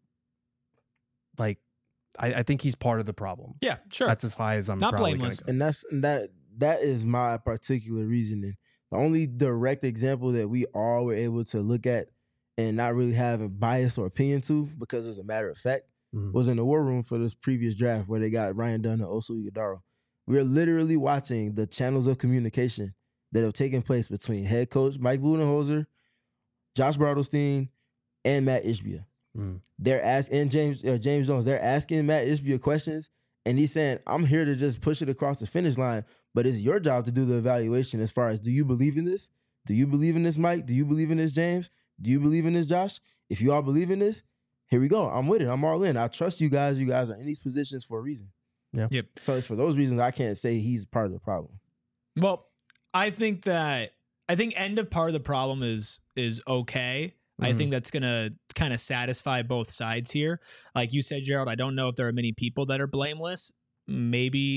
B: like, I, I think he's part of the problem.
A: Yeah, sure.
B: That's as high as I'm
A: not
B: probably
A: blameless.
B: Go.
C: And that's and that that is my particular reasoning. The only direct example that we all were able to look at and not really have a bias or opinion to, because it was a matter of fact, mm-hmm. was in the war room for this previous draft where they got Ryan Dunn and Oso Ighodaro. We are literally watching the channels of communication that have taken place between head coach Mike Budenholzer, Josh Bartelstein, and Matt Ishbia. Mm. They're asking and James uh, James Jones. They're asking Matt Ishbia questions, and he's saying, "I'm here to just push it across the finish line, but it's your job to do the evaluation as far as, do you believe in this? Do you believe in this, Mike? Do you believe in this, James? Do you believe in this, Josh? If you all believe in this, here we go. I'm with it. I'm all in. I trust you guys. You guys are in these positions for a reason."
B: Yeah.
A: Yep.
C: So for those reasons, I can't say he's part of the problem.
A: Well, I think that I think end of part of the problem is is okay. Mm-hmm. I think that's gonna kind of satisfy both sides here. Like you said, Gerald, I don't know if there are many people that are blameless. Maybe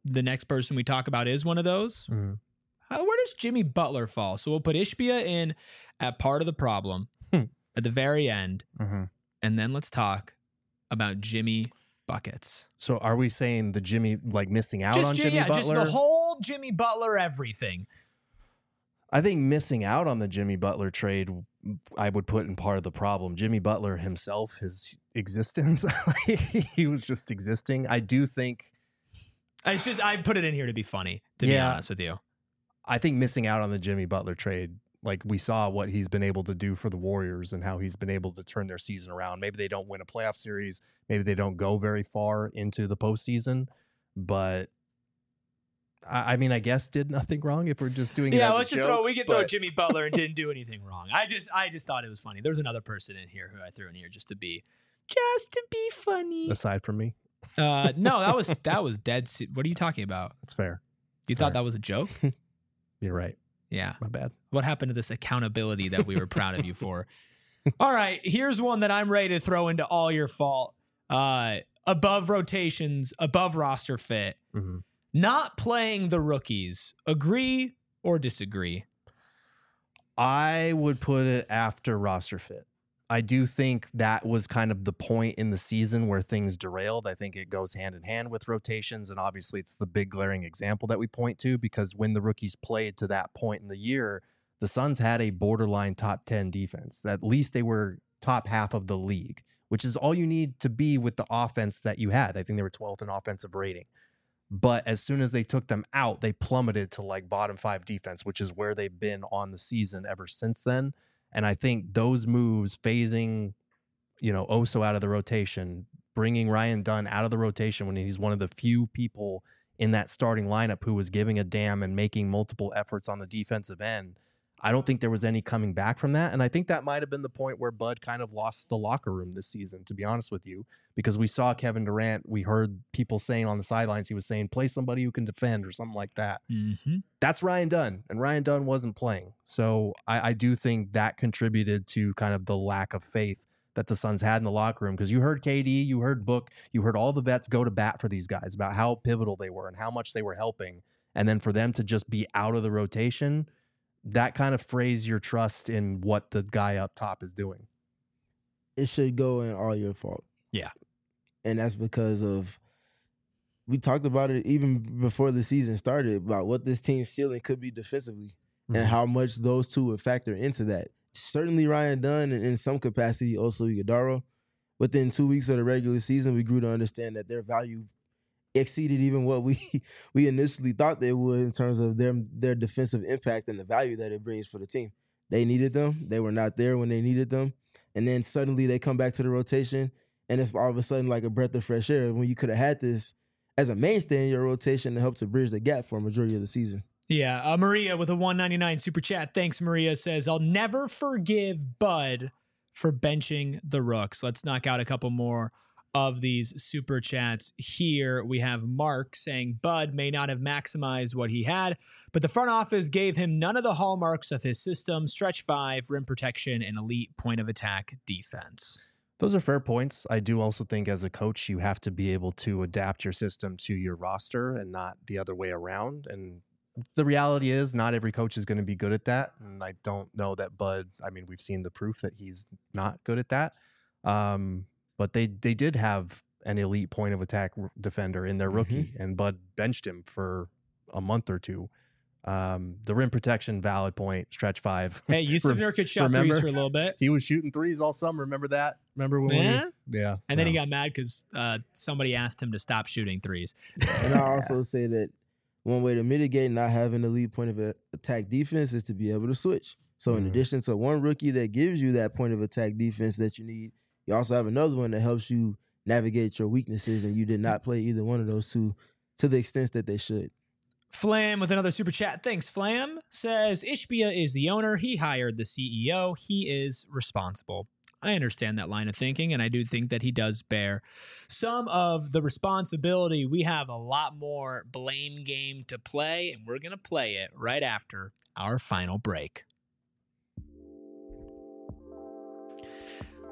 A: the next person we talk about is one of those.
B: Mhm.
A: How, where does Jimmy Butler fall? So we'll put Ishbia in at part of the problem
B: Hmm.
A: at the very end.
B: Mhm.
A: And then let's talk about Jimmy buckets.
B: So are we saying the Jimmy, like missing out
A: Just,
B: on
A: Ji-
B: Jimmy
A: yeah,
B: Butler?
A: just the whole Jimmy Butler everything.
B: I think missing out on the Jimmy Butler trade, I would put in part of the problem. Jimmy Butler himself, his existence, he was just existing. I do think,
A: It's just I put it in here to be funny, to be
B: Yeah.
A: honest with you.
B: I think missing out on the Jimmy Butler trade, like we saw what he's been able to do for the Warriors and how he's been able to turn their season around. Maybe they don't win a playoff series. Maybe they don't go very far into the postseason, but I, I mean, I guess did nothing wrong if we're just doing it
A: Yeah,
B: as a
A: let's just
B: joke,
A: throw we could throw
B: but-
A: Jimmy Butler and didn't do anything wrong. I just I just thought it was funny. There's another person in here who I threw in here just to be just to be funny.
B: aside from me.
A: Uh no, that was that was dead se- What are you talking about?
B: That's fair.
A: You
B: Fair.
A: thought that was a joke?
B: You're right.
A: Yeah.
B: My bad.
A: What happened to this accountability that we were proud of you for? All right, here's one that I'm ready to throw into all your fault. Uh above rotations, above roster fit,
B: Mhm.
A: not playing the rookies. Agree or disagree?
B: I would put it after roster fit. I do think that was kind of the point in the season where things derailed. I think it goes hand in hand with rotations, and obviously it's the big glaring example that we point to because when the rookies played to that point in the year, the Suns had a borderline top ten defense. At least they were top half of the league, which is all you need to be with the offense that you had. I think they were twelfth in offensive rating. But as soon as they took them out, they plummeted to like bottom five defense, which is where they've been on the season ever since then. And I think those moves, phasing, you know, Oso out of the rotation, bringing Ryan Dunn out of the rotation when he's one of the few people in that starting lineup who was giving a damn and making multiple efforts on the defensive end, I don't think there was any coming back from that. And I think that might have been the point where Bud kind of lost the locker room this season, to be honest with you, because we saw Kevin Durant. We heard people saying on the sidelines, he was saying, play somebody who can defend or something like that.
A: Mm-hmm.
B: That's Ryan Dunn, and Ryan Dunn wasn't playing. So I, I do think that contributed to kind of the lack of faith that the Suns had in the locker room, because you heard K D, you heard Book, you heard all the vets go to bat for these guys about how pivotal they were and how much they were helping. And then for them to just be out of the rotation, that kind of frays your trust in what the guy up top is doing.
C: It should go in all your fault.
A: Yeah.
C: And that's because of, we talked about it even before the season started, about what this team's ceiling could be defensively
B: Mhm.
C: and how much those two would factor into that. Certainly Ryan Dunn and in some capacity also Iguodala. Within two weeks of the regular season, we grew to understand that their value exceeded even what we we initially thought they would in terms of their their defensive impact and the value that it brings for the team. They needed them. They were not there when they needed them. And then suddenly they come back to the rotation and it's all of a sudden like a breath of fresh air when you could have had this as a mainstay in your rotation to help to bridge the gap for a majority of the season.
A: Yeah, uh, Maria with a one ninety-nine super chat. Thanks, Maria. Says, I'll never forgive Bud for benching the Rooks. Let's knock out a couple more of these super chats here. We have Mark saying Bud may not have maximized what he had, but the front office gave him none of the hallmarks of his system: stretch five, rim protection, and elite point of attack defense.
B: Those are fair points. I do also think as a coach, you have to be able to adapt your system to your roster and not the other way around. And the reality is not every coach is going to be good at that. And I don't know that Bud, I mean, we've seen the proof that he's not good at that. Um, but they, they did have an elite point of attack r- defender in their rookie,
C: Mm-hmm.
B: and Bud benched him for a month or two. Um, the rim protection, valid point, stretch five.
A: Hey, Yusuf
B: Rem-
A: Nurkic shot
B: remember?
A: threes for a little bit.
B: He was shooting threes all summer. Remember that? Remember when
A: Yeah.
B: we, yeah.
A: And then he
B: no.
A: got mad because uh, somebody asked him to stop shooting threes.
C: And I also say that one way to mitigate not having a elite point of a- attack defense is to be able to switch. So in
B: Mhm.
C: addition to one rookie that gives you that point of attack defense that you need, you also have another one that helps you navigate your weaknesses, and you did not play either one of those two to the extent that they should.
A: Flam with another super chat. Thanks, Flam. Says Ishbia is the owner. He hired the C E O. He is responsible. I understand that line of thinking, and I do think that he does bear some of the responsibility. We have a lot more blame game to play, and we're going to play it right after our final break.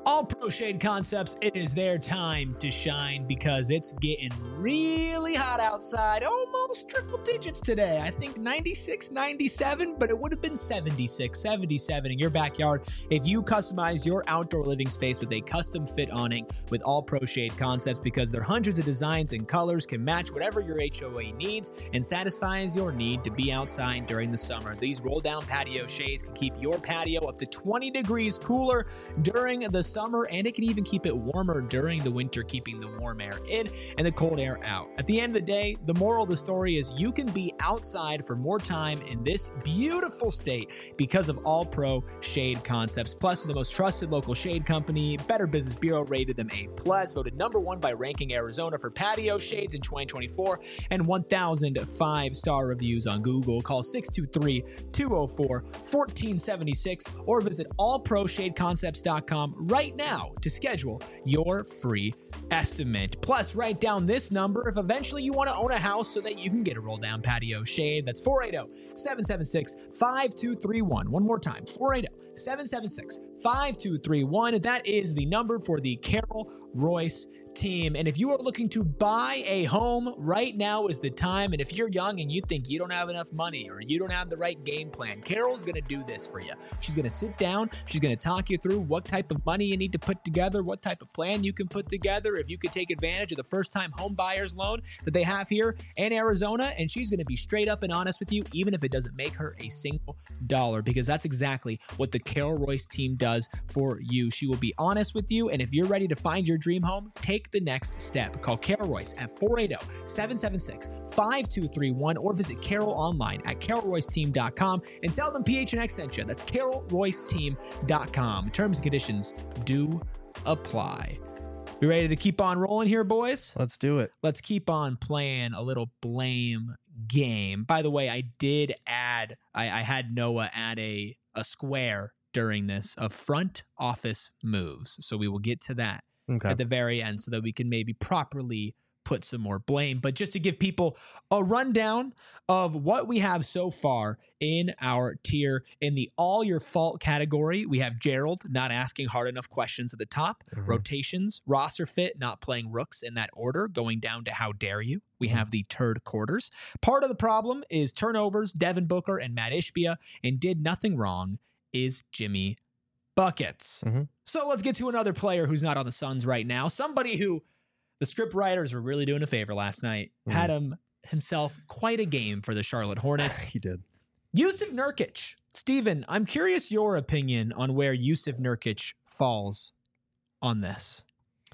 A: All Pro Shade Concepts, it is their time to shine because it's getting really hot outside. Almost triple digits today. I think ninety-six, ninety-seven, but it would have been seventy-six, seventy-seven in your backyard if you customize your outdoor living space with a custom fit awning with All Pro Shade Concepts, because their hundreds of designs and colors can match whatever your H O A needs and satisfies your need to be outside during the summer. These roll down patio shades can keep your patio up to twenty degrees cooler during the summer, and it can even keep it warmer during the winter, keeping the warm air in and the cold air out. At the end of the day, the moral of the story is you can be outside for more time in this beautiful state because of All Pro Shade Concepts. Plus, the most trusted local shade company. Better Business Bureau rated them A plus, voted number one by Ranking Arizona for patio shades in twenty twenty-four, and one thousand five-star reviews on Google. Call six two three, two oh four, one four seven six or visit all pro shade concepts dot com right now to schedule your free estimate. Plus, write down this number if eventually you want to own a house so that you can get a roll down patio shade. That's four eight zero, seven seven six, five two three one. One more time, four eight zero, seven seven six, five two three one. That is the number for the Carol Royce team. And if you are looking to buy a home, right now is the time. And if you're young and you think you don't have enough money or you don't have the right game plan, Carol's going to do this for you. She's going to sit down. She's going to talk you through what type of money you need to put together, what type of plan you can put together, if you could take advantage of the first-time home buyer's loan that they have here in Arizona. And she's going to be straight up and honest with you, even if it doesn't make her a single dollar, because that's exactly what the Carol Royce team does for you. She will be honest with you. And if you're ready to find your dream home, take the next step. Call Carol Royce at four eight zero, seven seven six, five two three one or visit Carol online at carol royce team dot com and tell them P H N X sent you. That's carol royce team dot com. Terms and conditions do apply. We ready to keep on rolling here, boys?
B: Let's do it.
A: Let's keep on playing a little blame game. By the way, I did add, I, I had Noah add a, a square during this of front office moves. So we will get to that
B: Okay.
A: at the very end so that we can maybe properly put some more blame. But just to give people a rundown of what we have so far in our tier, in the all your fault category, we have Gerald not asking hard enough questions at the top,
B: Mhm.
A: rotations, roster fit, not playing rooks in that order, going down to how dare you. We have the turd quarters. Part of the problem is turnovers, Devin Booker and Matt Ishbia, and did nothing wrong is Jimmy Buckets.
B: Mhm.
A: So let's get to another player who's not on the Suns right now. Somebody who the script writers were really doing a favor last night.
B: Mhm.
A: Had him himself quite a game for the Charlotte Hornets.
B: He did.
A: Yusuf Nurkic. Steven, I'm curious your opinion on where Yusuf Nurkic falls on this.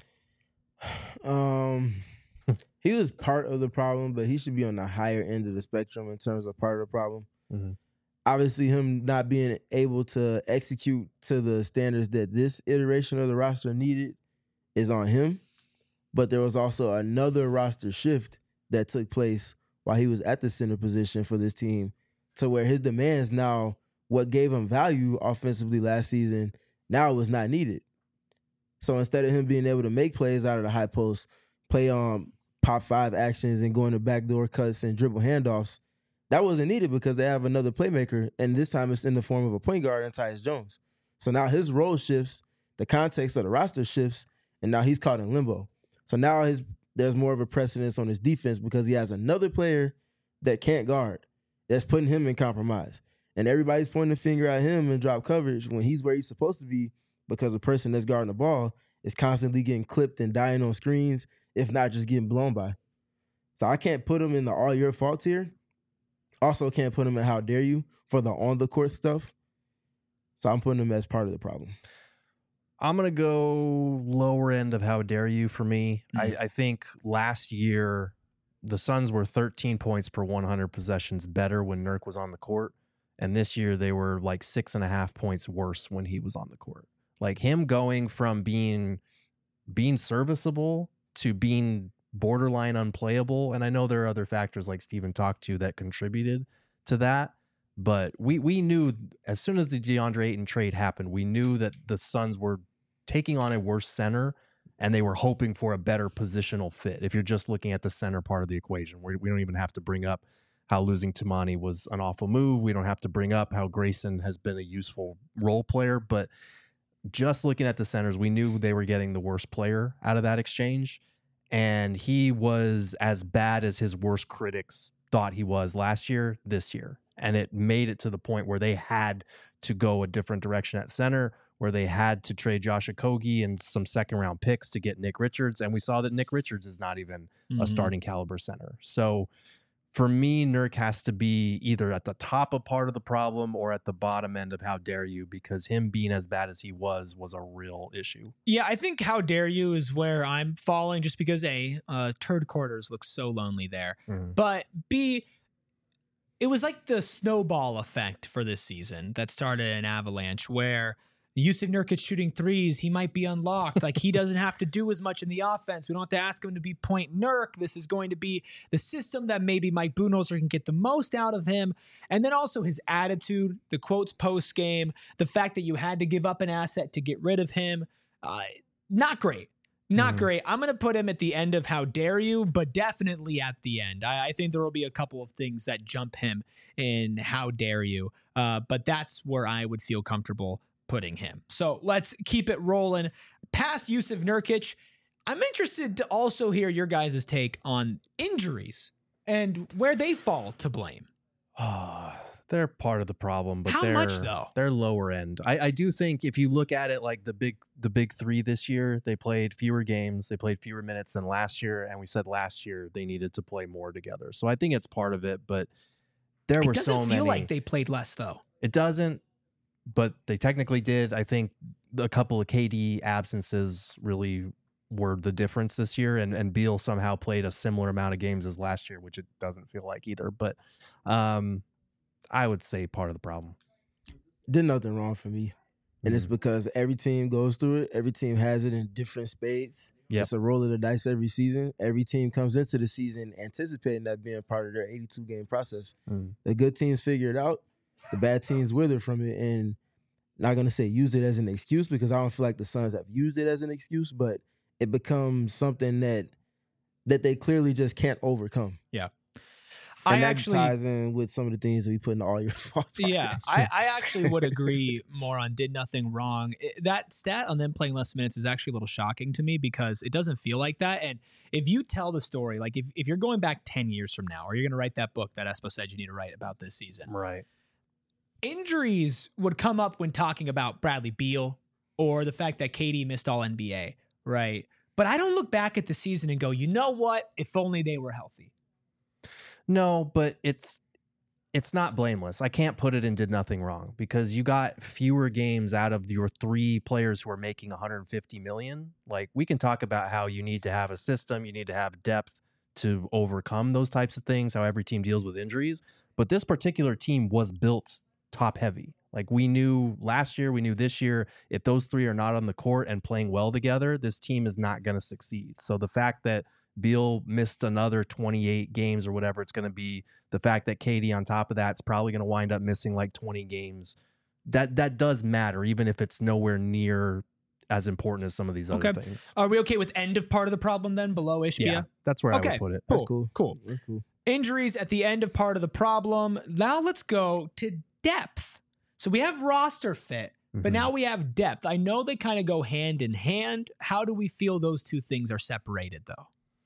C: Um, he was part of the problem, but he should be on the higher end of the spectrum in terms of part of the problem.
B: Mhm.
C: Obviously, him not being able to execute to the standards that this iteration of the roster needed is on him. But there was also another roster shift that took place while he was at the center position for this team, to where his demands now, what gave him value offensively last season, now it was not needed. So instead of him being able to make plays out of the high post, play on pop five actions and going to backdoor cuts and dribble handoffs, that wasn't needed because they have another playmaker, and this time it's in the form of a point guard and Tyus Jones. So now his role shifts, the context of the roster shifts, and now he's caught in limbo. So now his there's more of a precedence on his defense because he has another player that can't guard, that's putting him in compromise. And everybody's pointing the finger at him in drop coverage when he's where he's supposed to be, because the person that's guarding the ball is constantly getting clipped and dying on screens, if not just getting blown by. So I can't put him in the all your fault tier. Also can't put him in how dare you for the on-the-court stuff. So I'm putting him as part of the problem.
B: I'm going to go lower end of how dare you for me.
A: Mhm.
B: I, I think last year the Suns were thirteen points per one hundred possessions better when Nurk was on the court. And this year they were like six and a half points worse when he was on the court. Like him going from being being serviceable to being borderline unplayable. And I know there are other factors like Steven talked to that contributed to that. But we we knew as soon as the DeAndre Ayton trade happened, we knew that the Suns were taking on a worse center and they were hoping for a better positional fit. If you're just looking at the center part of the equation, we we don't even have to bring up how losing Tamani was an awful move. We don't have to bring up how Grayson has been a useful role player. But just looking at the centers, we knew they were getting the worst player out of that exchange. And he was as bad as his worst critics thought he was last year, this year. And it made it to the point where they had to go a different direction at center, where they had to trade Josh Okogie and some second round picks to get Nick Richards. And we saw that Nick Richards is not even mm-hmm. a starting caliber center. So for me, Nurk has to be either at the top of part of the problem or at the bottom end of how dare you, because him being as bad as he was was a real issue.
A: Yeah, I think how dare you is where I'm falling, just because A, uh, turd quarters look so lonely there. Mm. But B, it was like the snowball effect for this season that started an avalanche where Jusuf Nurkic shooting threes, he might be unlocked. Like, he doesn't have to do as much in the offense. We don't have to ask him to be point Nurk. This is going to be the system that maybe Mike Budenholzer can get the most out of him. And then also his attitude, the quotes post game, the fact that you had to give up an asset to get rid of him. Uh, not great. Not mm. great. I'm going to put him at the end of how dare you, but definitely at the end. I, I think there will be a couple of things that jump him in how dare you. Uh, but that's where I would feel comfortable putting him. So let's keep it rolling. Past Jusuf Nurkic, I'm interested to also hear your guys' take on injuries and where they fall to blame.
B: Oh, they're part of the problem, but
A: how
B: they're,
A: much though?
B: They're lower end. I, I do think if you look at it like the big the big three this year, they played fewer games, they played fewer minutes than last year, and we said last year they needed to play more together. So I think it's part of it, but there
A: it
B: were so many.
A: It doesn't feel like they played less though.
B: It doesn't. But they technically did. I think a couple of K D absences really were the difference this year. And, and Beal somehow played a similar amount of games as last year, which it doesn't feel like either. But um, I would say part of the problem.
C: Did nothing wrong for me. And mm-hmm. it's because every team goes through it. Every team has it in different spades. Yep. It's a roll of the dice every season. Every team comes into the season anticipating that being part of their eighty-two game process. Mm. The good teams figure it out. The bad teams wither from it, and not going to say use it as an excuse, because I don't feel like the Suns have used it as an excuse, but it becomes something that that they clearly just can't overcome.
A: Yeah.
C: And
A: I
C: that
A: actually
C: ties in with some of the things that we put in all your fault.
A: Yeah, I, I actually would agree more on did nothing wrong. It, that stat on them playing less minutes is actually a little shocking to me, because it doesn't feel like that. And if you tell the story, like if, if you're going back ten years from now, or you're going to write that book that Espo said you need to write about this season.
B: Right.
A: Injuries would come up when talking about Bradley Beal or the fact that K D missed all N B A, right? But I don't look back at the season and go, you know what? If only they were healthy.
B: No, but it's it's not blameless. I can't put it in did nothing wrong, because you got fewer games out of your three players who are making one hundred fifty million. Like, we can talk about how you need to have a system, you need to have depth to overcome those types of things, how every team deals with injuries. But this particular team was built top heavy. Like, we knew last year, we knew this year, if those three are not on the court and playing well together, this team is not going to succeed. So the fact that Beal missed another twenty-eight games or whatever it's going to be, the fact that K D on top of that is probably going to wind up missing like twenty games, that that does matter, even if it's nowhere near as important as some of these other
A: okay.
B: things.
A: Are we okay with end of part of the problem then, below Ishbia?
B: Yeah, that's where
A: okay.
B: I would put it.
A: Cool.
C: That's cool.
A: Cool.
C: That's cool.
A: Injuries at the end of part of the problem. Now let's go to depth. So we have roster fit, but mm-hmm. now we have depth. I know they kind of go hand in hand. How do we feel those two things are separated, though?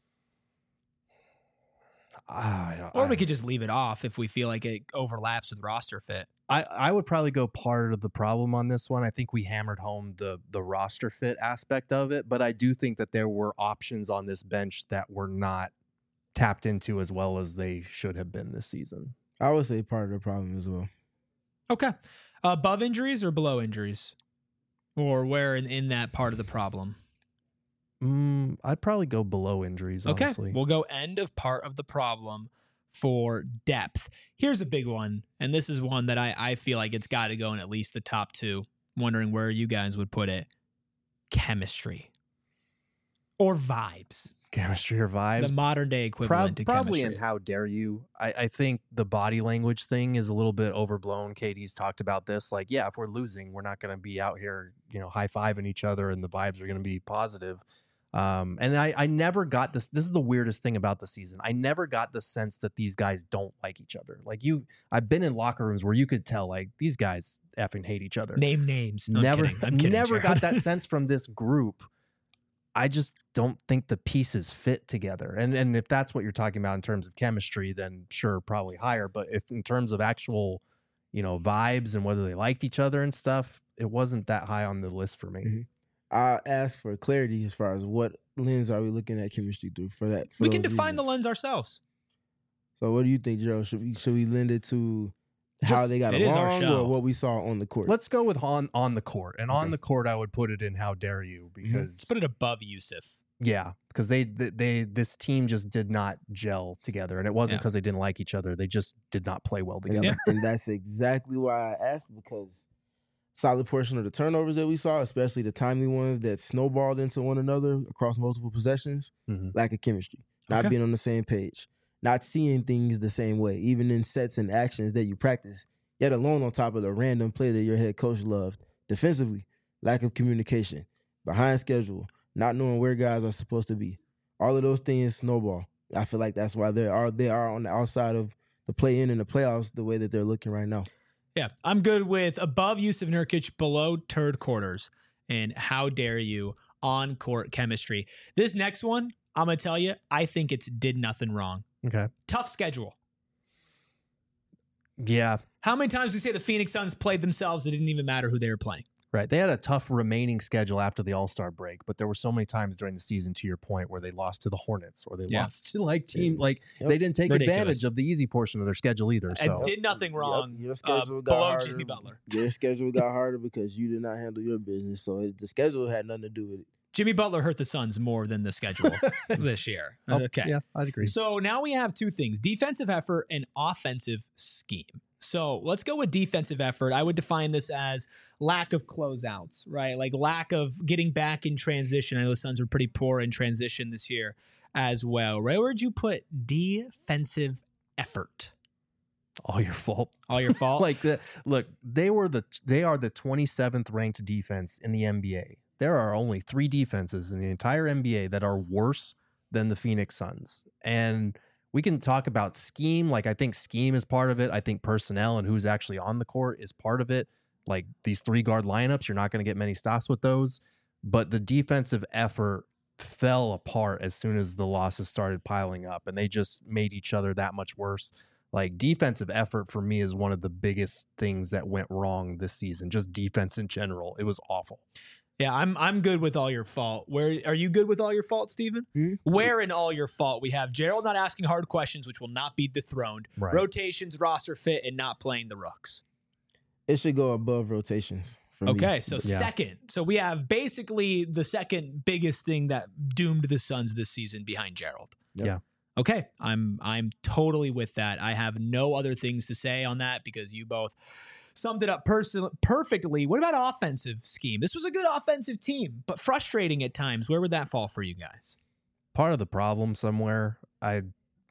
B: I,
A: or
B: I,
A: we could just leave it off if we feel like it overlaps with roster fit.
B: I, I would probably go part of the problem on this one. I think we hammered home the the roster fit aspect of it, but I do think that there were options on this bench that were not tapped into as well as they should have been this season.
C: I would say part of the problem as well.
A: Okay. Above injuries or below injuries? Or where in, in that part of the problem?
B: Mm, I'd probably go below injuries,
A: okay.
B: honestly.
A: We'll go end of part of the problem for depth. Here's a big one, and this is one that I, I feel like it's got to go in at least the top two. Wondering where you guys would put it. Chemistry. Or vibes.
B: Chemistry or vibes.
A: The modern day equivalent
B: Pro-
A: to
B: probably
A: chemistry.
B: In how dare you. I, I think the body language thing is a little bit overblown. K D's talked about this. Like, yeah, if we're losing, we're not going to be out here, you know, high-fiving each other and the vibes are going to be positive. Um, and I, I never got this. This is the weirdest thing about the season. I never got the sense that these guys don't like each other. Like you, I've been in locker rooms where you could tell like these guys effing hate each other.
A: Name names. No, I'm
B: never,
A: kidding. I'm kidding,
B: never got
A: Jared.
B: that sense from this group. I just don't think the pieces fit together. And and if that's what you're talking about in terms of chemistry, then sure, probably higher. But if in terms of actual, you know, vibes and whether they liked each other and stuff, it wasn't that high on the list for me.
C: Mm-hmm. I asked for clarity as far as what lens are we looking at chemistry through for that. For
A: We can
C: those
A: define
C: reasons.
A: the lens ourselves.
C: So what do you think, Gerald? Should we should we lend it to how
A: Just-
C: they got
A: it is our
C: along
A: show.
C: or what we saw on the court?
B: Let's go with on on the court. And on
C: Okay.
B: the court, I would put it in how dare you because
A: Let's put it above Yusuf.
B: yeah, because they, they they this team just did not gel together, and it wasn't
A: Yeah.
B: because they didn't like each other. They just did not play well
C: and,
B: together.
C: and that's exactly why I asked, because solid portion of the turnovers that we saw, especially the timely ones that snowballed into one another across multiple possessions,
B: Mhm.
C: lack of chemistry, not
A: Okay.
C: being on the same page, not seeing things the same way, even in sets and actions that you practice, yet alone on top of the random play that your head coach loved. Defensively, lack of communication, behind schedule, not knowing where guys are supposed to be. All of those things snowball. I feel like that's why they are they are on the outside of the play-in and the playoffs the way that they're looking right now.
A: Yeah, I'm good with above Yusuf Nurkic, below third quarters, and how dare you on court chemistry. This next one, I'm gonna tell you, I think it's did nothing wrong.
B: Okay.
A: Tough schedule.
B: Yeah,
A: How many times we say the Phoenix Suns played themselves? It didn't even matter who they were playing.
B: right. They had a tough remaining schedule after the All-Star break, but there were so many times during the season, to your point, where they lost to the Hornets or they
A: Yeah.
B: lost to like team like
C: Yep.
B: they didn't take
A: Ridiculous.
B: advantage of the easy portion of their schedule either. So
A: And did nothing
C: Yep,
A: wrong.
C: Your
A: uh,
C: schedule got
A: below
C: harder.
A: Jimmy Butler.
C: Your schedule got harder because you did not handle your business. So it, the schedule had nothing to do with it.
A: Jimmy Butler hurt the Suns more than the schedule this year.
B: Oh,
A: Okay.
B: yeah, I'd agree.
A: So now we have two things: defensive effort and offensive scheme. So let's go with defensive effort. I would define this as lack of closeouts, right? Like lack of getting back in transition. I know the Suns were pretty poor in transition this year as well. Right? Where'd you put defensive effort?
B: All your fault.
A: All your fault?
B: like the look, they were the they are the twenty-seventh ranked defense in the N B A. There are only three defenses in the entire N B A that are worse than the Phoenix Suns. And we can talk about scheme. Like, I think scheme is part of it. I think personnel and who's actually on the court is part of it. Like these three guard lineups, you're not going to get many stops with those. But the defensive effort fell apart as soon as the losses started piling up, and they just made each other that much worse. Like defensive effort for me is one of the biggest things that went wrong this season. Just defense in general. It was awful.
A: Yeah, I'm I'm good with all your fault. Where are you good with all your fault, Steven?
C: Hmm?
A: Where in all your fault we have Gerald not asking hard questions, which will not be dethroned,
B: Right.
A: rotations, roster fit, and not playing the rooks.
C: It should go above rotations for me.
A: Okay, so
B: Yeah.
A: second. So we have basically the second biggest thing that doomed the Suns this season behind Gerald.
C: Yep.
B: Yeah.
A: Okay, I'm I'm totally with that. I have no other things to say on that because you both summed it up pers- perfectly. What about offensive scheme? This was a good offensive team, but frustrating at times. Where would that fall for you guys?
B: Part of the problem somewhere, I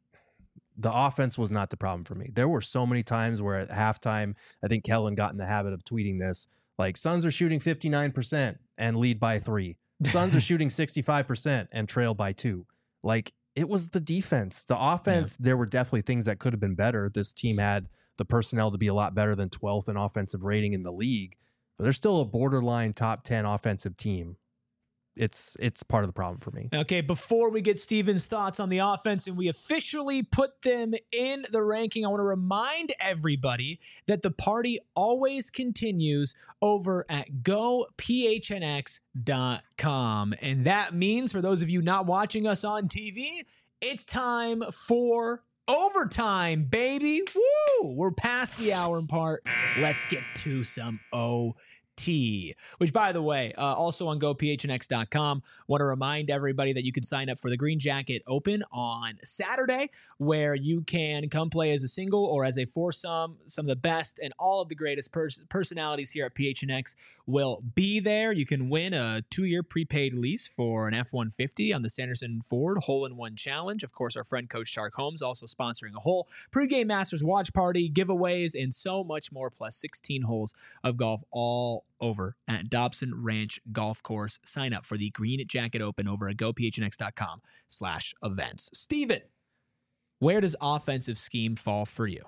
B: the offense was not the problem for me. There were so many times where at halftime, I think Kellen got in the habit of tweeting this, like Suns are shooting fifty-nine percent and lead by three. Suns are shooting sixty-five percent and trail by two. Like, it was the defense. The offense, there were definitely things that could have been better. This team had the personnel to be a lot better than twelfth in offensive rating in the league, but they're still a borderline top ten offensive team. It's it's part of the problem for me.
A: Okay, before we get Steven's thoughts on the offense and we officially put them in the ranking, I want to remind everybody that the party always continues over at go p h n x dot com. And that means, for those of you not watching us on T V, it's time for overtime, baby. Woo! We're past the hour part. Let's get to some O T, which, by the way, uh, also on go p h n x dot com, want to remind everybody that you can sign up for the Green Jacket Open on Saturday, where you can come play as a single or as a foursome. Some of the best and all of the greatest pers- personalities here at P H N X will be there. You can win a two-year prepaid lease for an F one fifty on the Sanderson Ford Hole-in-One Challenge. Of course, our friend Coach Shark Holmes also sponsoring a whole pregame Masters watch party, giveaways, and so much more, plus sixteen holes of golf all over at Dobson Ranch Golf Course. Sign up for the Green Jacket Open over at gophnx.com slash events. Steven, where does offensive scheme fall for you?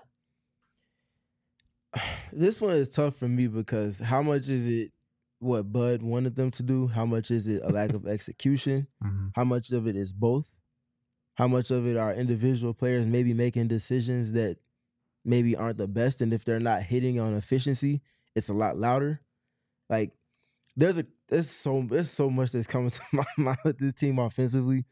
C: This one is tough for me because how much is it what Bud wanted them to do? How much is it a lack of execution?
B: Mm-hmm.
C: How much of it is both? How much of it are individual players maybe making decisions that maybe aren't the best? And if they're not hitting on efficiency, it's a lot louder. Like there's a there's so there's so much that's coming to my mind with this team offensively.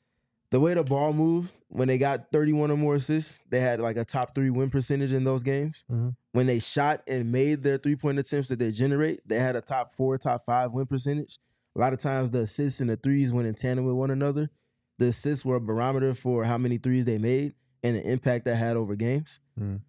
C: The way the ball moved when they got thirty-one or more assists, they had like a top three win percentage in those games.
B: Mm-hmm.
C: When they shot and made their three-point attempts that they generate, they had a top four, top five win percentage. A lot of times the assists and the threes went in tandem with one another. The assists were a barometer for how many threes they made and the impact that had over games.
B: Mm-hmm.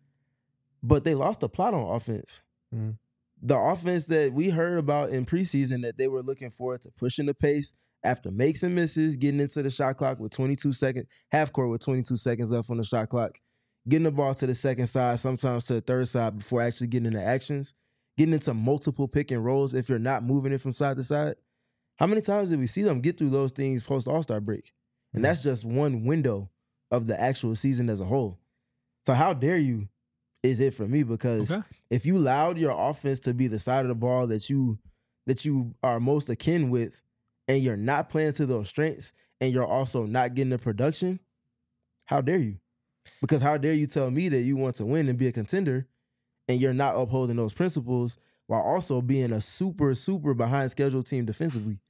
C: But they lost the plot on offense.
B: Mm-hmm.
C: The offense that we heard about in preseason that they were looking forward to pushing the pace after makes and misses, getting into the shot clock with twenty-two seconds, half court with twenty-two seconds left on the shot clock, getting the ball to the second side, sometimes to the third side before actually getting into actions, getting into multiple pick and rolls if you're not moving it from side to side. How many times did we see them get through those things post All-Star break? And that's just one window of the actual season as a whole. So how dare you is it for me, because
A: Okay.
C: if you allowed your offense to be the side of the ball that you that you are most akin with, and you're not playing to those strengths, and you're also not getting the production, how dare you? Because how dare you tell me that you want to win and be a contender, and you're not upholding those principles while also being a super, super behind schedule team defensively?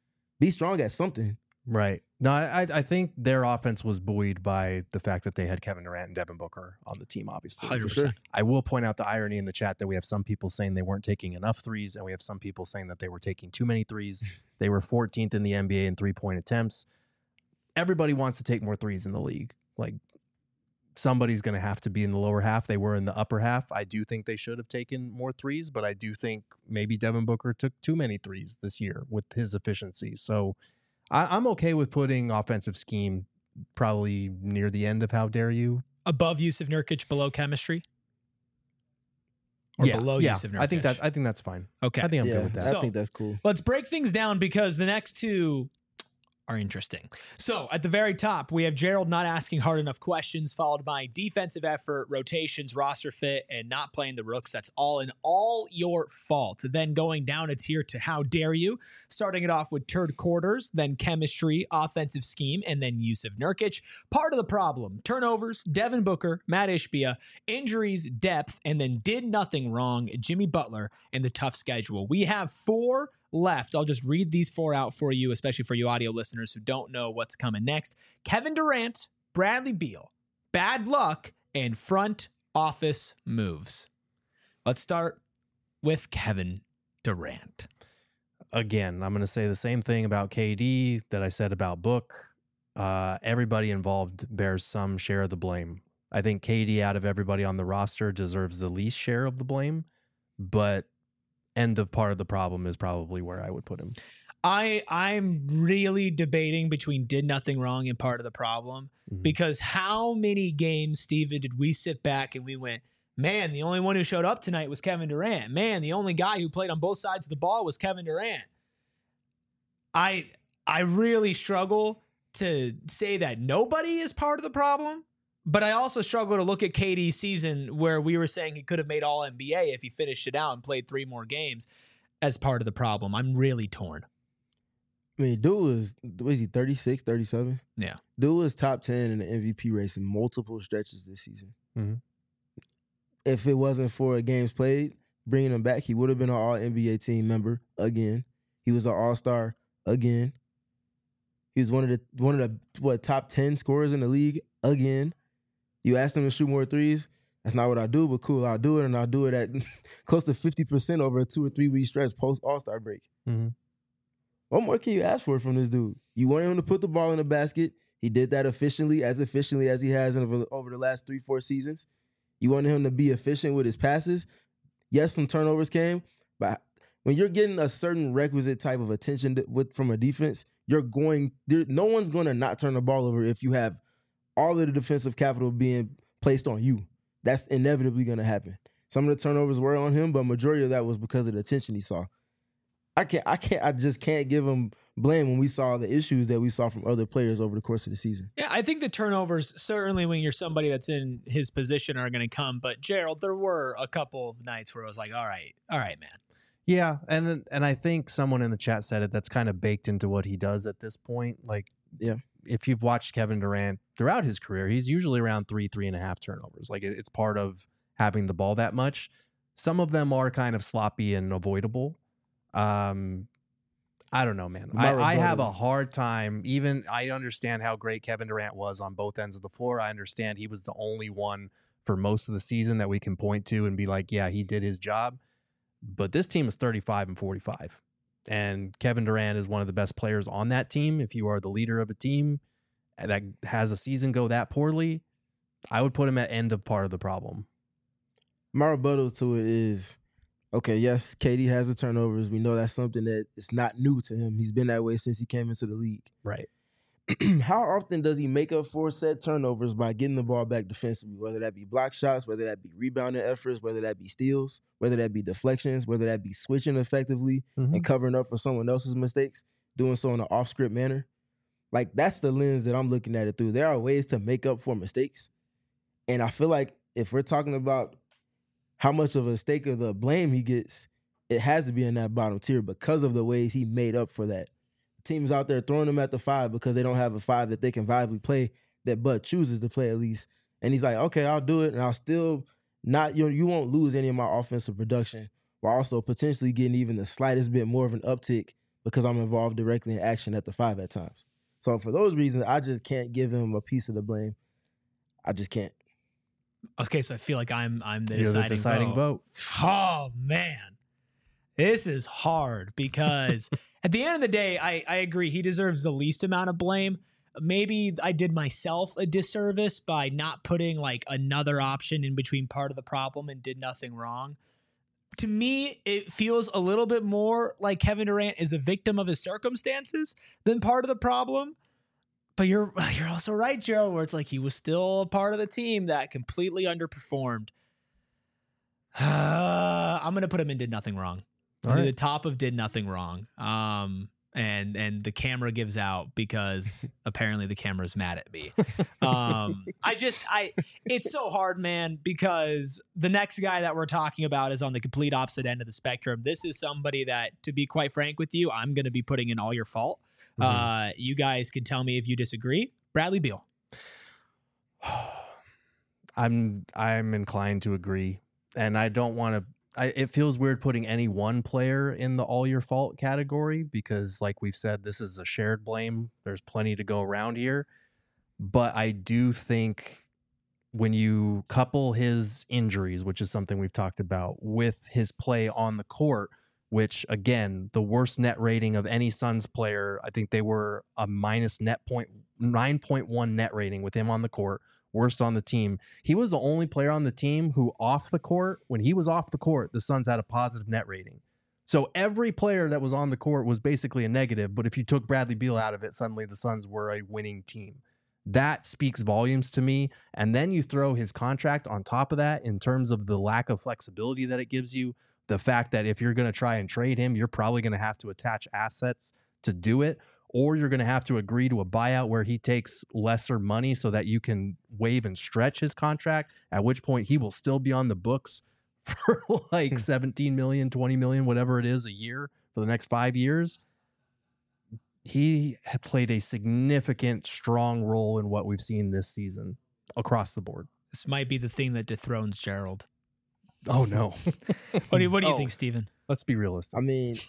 C: Be strong at something.
B: Right. No, I I think their offense was buoyed by the fact that they had Kevin Durant and Devin Booker on the team, obviously.
A: one hundred
C: For sure.
A: percent.
B: I will point out the irony in the chat that we have some people saying they weren't taking enough threes, and we have some people saying that they were taking too many threes. They were fourteenth in the N B A in three-point attempts. Everybody wants to take more threes in the league. Like, somebody's going to have to be in the lower half. They were in the upper half. I do think they should have taken more threes, but I do think maybe Devin Booker took too many threes this year with his efficiency. So I, I'm okay with putting offensive scheme probably near the end of how dare you.
A: Above Yusuf Nurkic, below chemistry? Or
B: yeah,
A: below
B: yeah.
A: Yusuf Nurkic?
B: I think that I think that's fine.
A: Okay.
B: I think I'm
C: yeah,
B: good with that.
C: I
A: So-
C: think that's cool.
A: Let's break things down because the next two are interesting. So at the very top, we have Gerald not asking hard enough questions, followed by defensive effort, rotations, roster fit, and not playing the rooks. That's all in all your fault. Then going down a tier to how dare you, starting it off with turd quarters, then chemistry, offensive scheme, and then Yusuf Nurkic. Part of the problem, turnovers, Devin Booker, Matt Ishbia, injuries, depth, and then did nothing wrong, Jimmy Butler, and the tough schedule. We have four left. I'll just read these four out for you, especially for you audio listeners who don't know what's coming next. Kevin Durant, Bradley Beal, bad luck, and front office moves. Let's start with Kevin Durant.
B: Again, I'm going to say the same thing about K D that I said about Book. Uh, everybody involved bears some share of the blame. I think K D, out of everybody on the roster, deserves the least share of the blame, but end of part of the problem is probably where I would put him.
A: I I'm really debating between did nothing wrong and part of the problem,
B: Mhm.
A: because how many games, Steven, did we sit back and we went, man, the only one who showed up tonight was Kevin Durant. Man, the only guy who played on both sides of the ball was Kevin Durant. I I really struggle to say that nobody is part of the problem, but I also struggle to look at K D's season where we were saying he could have made all N B A if he finished it out and played three more games as part of the problem. I'm really torn.
C: I mean, dude was, what is he, thirty-six, thirty-seven?
A: Yeah.
C: Dude was top ten in the M V P race in multiple stretches this season.
B: Mhm.
C: If it wasn't for games played, bringing him back, he would have been an all N B A team member again. He was an all-star again. He was one of the one of the what top ten scorers in the league again. You asked him to shoot more threes. That's not what I do, but cool, I'll do it, and I'll do it at close to fifty percent over a two or three week stretch post All-Star break.
B: Mhm.
C: What more can you ask for from this dude? You want him to put the ball in the basket. He did that efficiently, as efficiently as he has in, over, over the last three, four seasons. You want him to be efficient with his passes. Yes, some turnovers came, but when you're getting a certain requisite type of attention to, with from a defense, you're going. There, no one's going to not turn the ball over if you have all of the defensive capital being placed on you. That's inevitably going to happen. Some of the turnovers were on him, but majority of that was because of the attention he saw. I can't, I can't, I just can't give him blame when we saw the issues that we saw from other players over the course of the season.
A: Yeah, I think the turnovers, certainly when you're somebody that's in his position, are going to come. But Gerald, there were a couple of nights where I was like, all right, all right, man.
B: Yeah, and and I think someone in the chat said it. That's kind of baked into what he does at this point. Like,
C: yeah,
B: if you've watched Kevin Durant throughout his career, he's usually around three, three and a half turnovers. Like, it, it's part of having the ball that much. Some of them are kind of sloppy and avoidable. Um, I don't know, man. I, I have a hard time. Even I understand how great Kevin Durant was on both ends of the floor. I understand he was the only one for most of the season that we can point to and be like, yeah, he did his job. But this team is thirty-five and forty-five. And Kevin Durant is one of the best players on that team. If you are the leader of a team that has a season go that poorly, I would put him at end of part of the problem.
C: My rebuttal to it is, okay, yes, K D has the turnovers. We know that's something that is not new to him. He's been that way since he came into the league.
B: Right.
C: How often does he make up for said turnovers by getting the ball back defensively, whether that be block shots, whether that be rebounding efforts, whether that be steals, whether that be deflections, whether that be switching effectively mm-hmm. and covering up for someone else's mistakes, doing so in an off-script manner? Like, that's the lens that I'm looking at it through. There are ways to make up for mistakes. And I feel like if we're talking about how much of a stake of the blame he gets, it has to be in that bottom tier because of the ways he made up for that. Teams out there throwing him at the five because they don't have a five that they can viably play, that Bud chooses to play at least. And he's like, okay, I'll do it. And I'll still not, you know, you won't lose any of my offensive production while also potentially getting even the slightest bit more of an uptick because I'm involved directly in action at the five at times. So for those reasons, I just can't give him a piece of the blame. I just can't.
A: Okay, so I feel like I'm I'm the
B: You're
A: deciding,
B: the deciding vote.
A: vote. Oh, man. This is hard because at the end of the day, I, I agree. He deserves the least amount of blame. Maybe I did myself a disservice by not putting like another option in between part of the problem and did nothing wrong. To me, it feels a little bit more like Kevin Durant is a victim of his circumstances than part of the problem. But you're you're also right, Joe, where it's like he was still a part of the team that completely underperformed. Uh, I'm going to put him in did nothing wrong. Right. The top of did nothing wrong. Um, and and the camera gives out because apparently the camera's mad at me. Um, I just I it's so hard, man, because the next guy that we're talking about is on the complete opposite end of the spectrum. This is somebody that, to be quite frank with you, I'm going to be putting in all your fault. Mm-hmm. Uh, you guys can tell me if you disagree. Bradley Beal.
B: I'm I'm inclined to agree, and I don't want to. I, it feels weird putting any one player in the all your fault category because, like we've said, this is a shared blame. There's plenty to go around here. But I do think when you couple his injuries, which is something we've talked about, with his play on the court, which, again, the worst net rating of any Suns player, I think they were a minus net point, nine point one net rating with him on the court. Worst on the team. He was the only player on the team who off the court, when he was off the court, the Suns had a positive net rating. So every player that was on the court was basically a negative, but if you took Bradley Beal out of it, suddenly the Suns were a winning team. That speaks volumes to me. And then you throw his contract on top of that in terms of the lack of flexibility that it gives you, the fact that if you're going to try and trade him, you're probably going to have to attach assets to do it. Or you're going to have to agree to a buyout where he takes lesser money so that you can waive and stretch his contract, at which point he will still be on the books for like seventeen million, twenty million, whatever it is a year for the next five years. He had played a significant, strong role in what we've seen this season across the board.
A: This might be the thing that dethrones Gerald.
B: Oh, no.
A: What do you, what do you
B: oh.
A: think, Steven?
B: Let's be realistic.
C: I mean,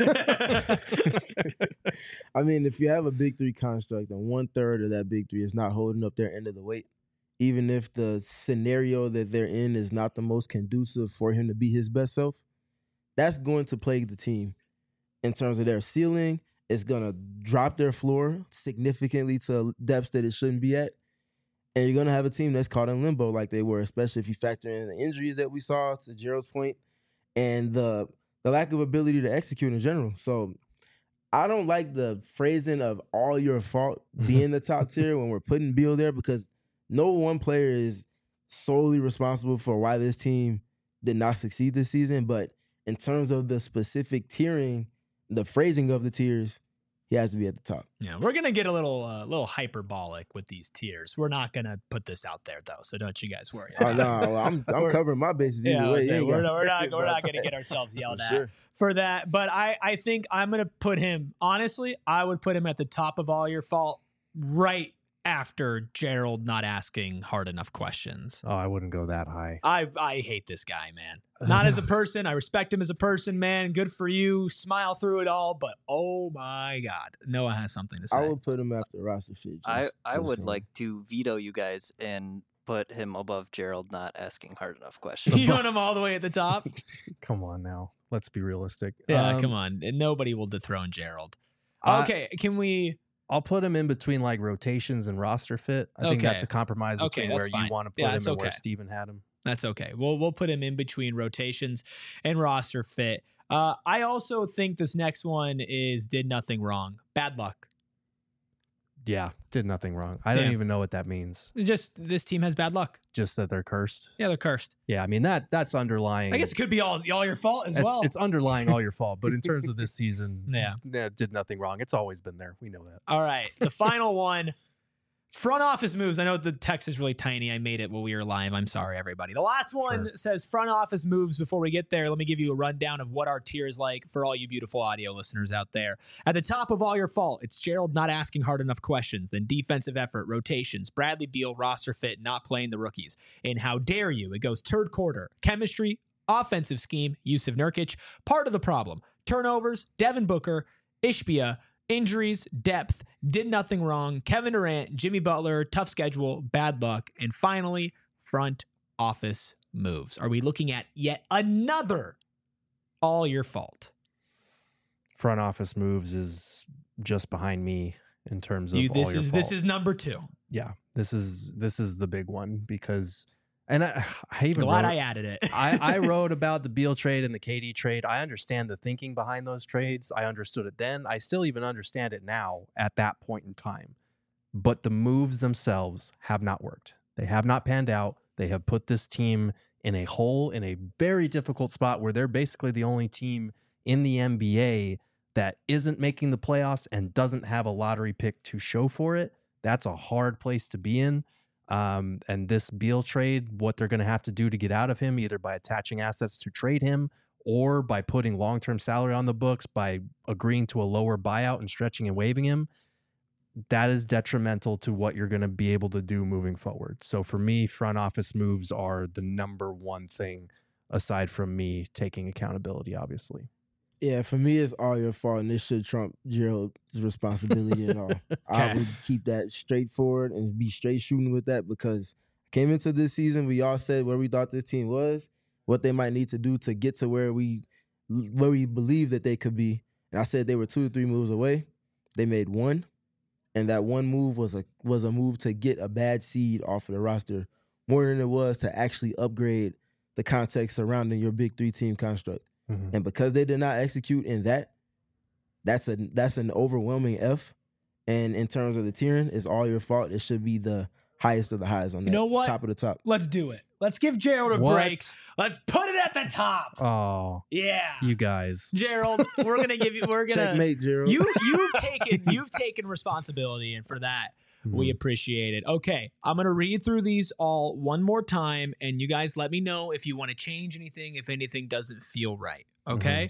C: I mean, if you have a big three construct and one third of that big three is not holding up their end of the weight, even if the scenario that they're in is not the most conducive for him to be his best self, that's going to plague the team in terms of their ceiling. It's going to drop their floor significantly to depths that it shouldn't be at. And you're going to have a team that's caught in limbo like they were, especially if you factor in the injuries that we saw, to Gerald's point, and the the lack of ability to execute in general. So I don't like the phrasing of all your fault being the top tier when we're putting Beal there, because no one player is solely responsible for why this team did not succeed this season, but in terms of the specific tiering, the phrasing of the tiers, he has to be at the top.
A: Yeah, we're gonna get a little, uh, little hyperbolic with these tiers. We're not gonna put this out there though, so don't you guys worry.
C: Oh, no, I'm I'm
A: We're-
C: covering my bases either
A: Yeah, I
C: way.
A: was
C: You
A: saying,
C: ain't
A: we're,
C: got-
A: not, we're not, we're
C: about
A: not gonna
C: that.
A: get ourselves yelled
C: For
A: at
C: sure.
A: for that. But I, I think I'm gonna put him. Honestly, I would put him at the top of all your fault, right after Gerald not asking hard enough questions.
B: Oh, I wouldn't go that high.
A: I I hate this guy, man. Not as a person. I respect him as a person, man. Good for you. Smile through it all. But oh my God, Noah has something to say.
C: I would put him after roster fit. Just,
E: I, I
C: just
E: would
C: saying.
E: like to veto you guys and put him above Gerald not asking hard enough questions.
A: You want him all the way at the top?
B: Come on now. Let's be realistic.
A: Yeah,
B: Um,
A: come on. Nobody will dethrone Gerald.
B: I-
A: Okay, can we?
B: I'll put him in between like rotations and roster fit. I think that's
A: Okay.
B: a compromise
A: Okay,
B: between
A: that's
B: where
A: fine.
B: you want to put
A: Yeah,
B: him
A: it's
B: and where
A: okay.
B: Steven had him.
A: That's okay. We'll we'll put him in between rotations and roster fit. Uh, I also think this next one is did nothing wrong. Bad luck.
B: Yeah, did nothing wrong. I don't
A: Yeah.
B: even know what that means.
A: Just this team has bad luck.
B: Just that they're cursed.
A: Yeah, they're cursed.
B: Yeah, I mean that that's underlying.
A: I guess it could be all all your fault as
B: it's,
A: well.
B: it's underlying all your fault. But in terms of this season,
A: Yeah.
B: yeah, did nothing wrong. It's always been there. We know that.
A: All right. The final one. Front office moves. I know the text is really tiny. I made it while we were live. I'm sorry, everybody. The last one
B: Sure.
A: says front office moves. Before we get there, let me give you a rundown of what our tier is like for all you beautiful audio listeners out there. At the top of all your fault, it's Gerald not asking hard enough questions. Then defensive effort, rotations, Bradley Beal, roster fit, not playing the rookies. And how dare you? It goes third quarter, chemistry, offensive scheme, Yusuf Nurkic, part of the problem. Turnovers, Devin Booker, Ishbia, injuries, depth, did nothing wrong, Kevin Durant, Jimmy Butler, tough schedule, bad luck, and finally, front office moves. Are we looking at yet another all your fault?
B: Front office moves is just behind me in terms of
A: You, this
B: all your
A: is
B: fault.
A: this is number two.
B: yeah. This is this is the big one because, and I, I even
A: Glad
B: wrote,
A: I added it.
B: I, I wrote about the Beal trade and the K D trade. I understand the thinking behind those trades. I understood it then. I still even understand it now at that point in time. But the moves themselves have not worked. They have not panned out. They have put this team in a hole, in a very difficult spot where they're basically the only team in the N B A that isn't making the playoffs and doesn't have a lottery pick to show for it. That's a hard place to be in. Um, and this Beal trade, what they're going to have to do to get out of him, either by attaching assets to trade him or by putting long-term salary on the books, by agreeing to a lower buyout and stretching and waiving him, that is detrimental to what you're going to be able to do moving forward. So for me, front office moves are the number one thing aside from me taking accountability, obviously.
C: Yeah, for me, it's all your fault, and this should trump Gerald's responsibility at all. I
A: Okay.
C: would keep that straightforward and be straight shooting with that because I came into this season, we all said where we thought this team was, what they might need to do to get to where we where we believe that they could be. And I said they were two or three moves away. They made one, and that one move was a was a move to get a bad seed off of the roster more than it was to actually upgrade the context surrounding your big three team construct.
B: Mm-hmm.
C: And because they did not execute in that, that's a that's an overwhelming F. And in terms of the tiering, it's all your fault. It should be the highest of the highs on that.
A: You know what?
C: Top of the top.
A: Let's do it. Let's give Gerald a
B: What?
A: break. Let's put it at the top.
B: Oh,
A: Yeah.
B: you guys.
A: Gerald, we're gonna give you we're gonna
C: Checkmate, Gerald.
A: you you've taken you've taken responsibility, and for that we appreciate it. Okay, I'm gonna read through these all one more time, and you guys let me know if you want to change anything, if anything doesn't feel right. Okay.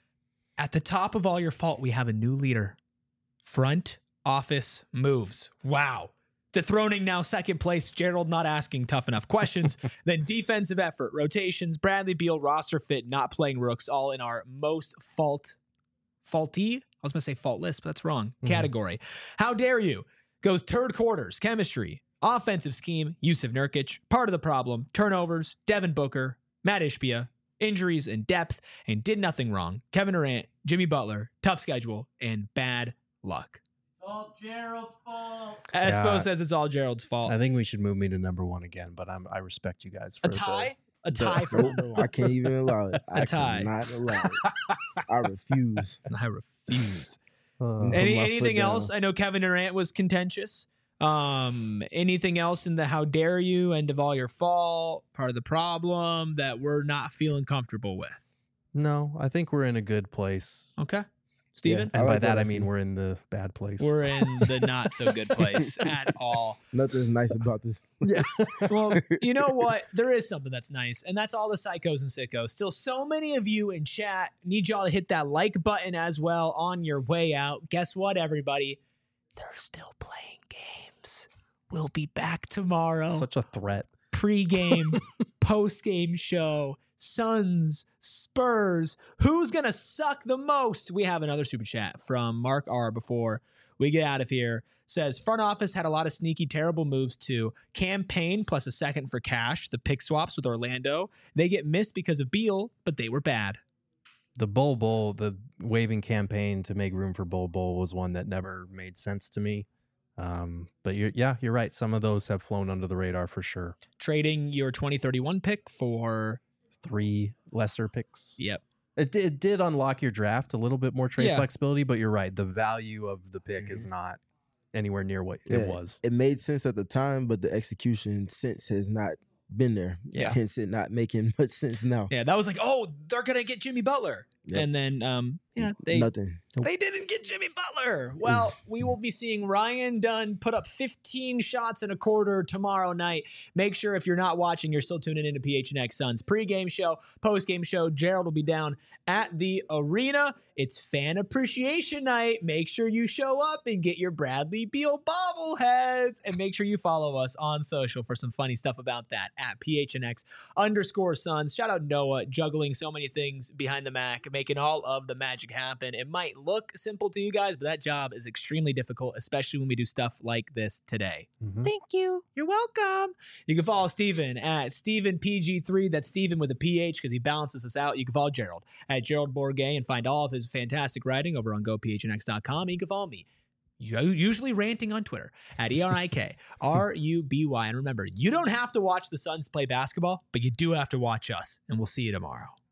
A: At the top of all your fault, we have a new leader. Front office moves. Wow. Dethroning now second place, Gerald not asking tough enough questions. Then defensive effort, rotations, Bradley Beal, roster fit, not playing rooks, all in our most fault, faulty, I was going to say faultless, but that's wrong,
B: Mhm.
A: category. How dare you? Goes third quarters, chemistry, offensive scheme, Yusuf Nurkic, part of the problem, turnovers, Devin Booker, Matt Ishbia, injuries and depth, and did nothing wrong. Kevin Durant, Jimmy Butler, tough schedule, and bad luck.
F: All Gerald's fault.
A: Espo
B: Yeah.
A: says it's all Gerald's fault.
B: I think we should move me to number one again, but I'm I respect you guys for
A: A tie? A
C: The-
A: tie for
C: nope,
A: number one.
C: I can't even allow it.
A: A
C: I
A: tie.
C: cannot allow it. I refuse.
A: I refuse.
B: The, uh,
C: Put
A: Any
C: my foot
A: anything
C: down.
A: else? I know Kevin Durant was contentious. Um, anything else in the how dare you, end of all your fault, part of the problem that we're not feeling comfortable with?
B: No, I think we're in a good place.
A: Okay. Steven?
C: I
B: And by
C: like
B: that,
C: what I
B: I mean
C: see.
B: we're in the bad place.
A: We're in the not so good place at all.
C: Nothing's nice about this.
B: yes.
A: Well, you know what? There is something that's nice, and that's all the psychos and sickos. Still, so many of you in chat need y'all to hit that like button as well on your way out. Guess what, everybody? They're still playing games. We'll be back tomorrow.
B: Such a threat.
A: Pre-game, post-game show. Suns, Spurs. Who's gonna suck the most? We have another super chat from Mark R. Before we get out of here. Says front office had a lot of sneaky, terrible moves too. Campaign plus a second for cash. The pick swaps with Orlando. They get missed because of Beal, but they were bad.
B: The Bol Bol, the waving campaign to make room for Bol Bol was one that never made sense to me. Um, but you're, yeah, you're right. Some of those have flown under the radar for sure.
A: Trading your twenty thirty-one pick for
B: Three lesser picks.
A: yep.
B: It did, it did unlock your draft a little bit more trade
A: Yeah.
B: flexibility, but you're right. The value of the pick is
C: Mhm.
B: not anywhere near what
C: Yeah,
B: it was.
C: It made sense at the time, but the execution since has not been there.
A: Yeah.
C: Hence it not making much sense now.
A: Yeah, that was like, oh, they're gonna get Jimmy Butler,
C: Yep.
A: and then um, yeah, they
C: Nothing. Nope.
A: They didn't get Jimmy Butler. Well, we will be seeing Ryan Dunn put up fifteen shots in a quarter tomorrow night. Make sure if you're not watching, you're still tuning into P H N X Suns pregame show, postgame show. Gerald will be down at the arena. It's fan appreciation night. Make sure you show up and get your Bradley Beal bobbleheads. And make sure you follow us on social for some funny stuff about that at P H N X underscore Suns. Shout out Noah, juggling so many things behind the Mac, making all of the magic happen. It might look simple to you guys, but that job is extremely difficult, especially when we do stuff like this today.
B: Mhm.
A: Thank you. You're welcome. You can follow Steven at Steven P G three. That's Steven with a P H because he balances us out. You can follow Gerald at Gerald Bourget and find all of his fantastic writing over on go p h n x dot com. And you can follow me, usually ranting on Twitter, at E R I K R U B Y. And remember, you don't have to watch the Suns play basketball, but you do have to watch us. And we'll see you tomorrow.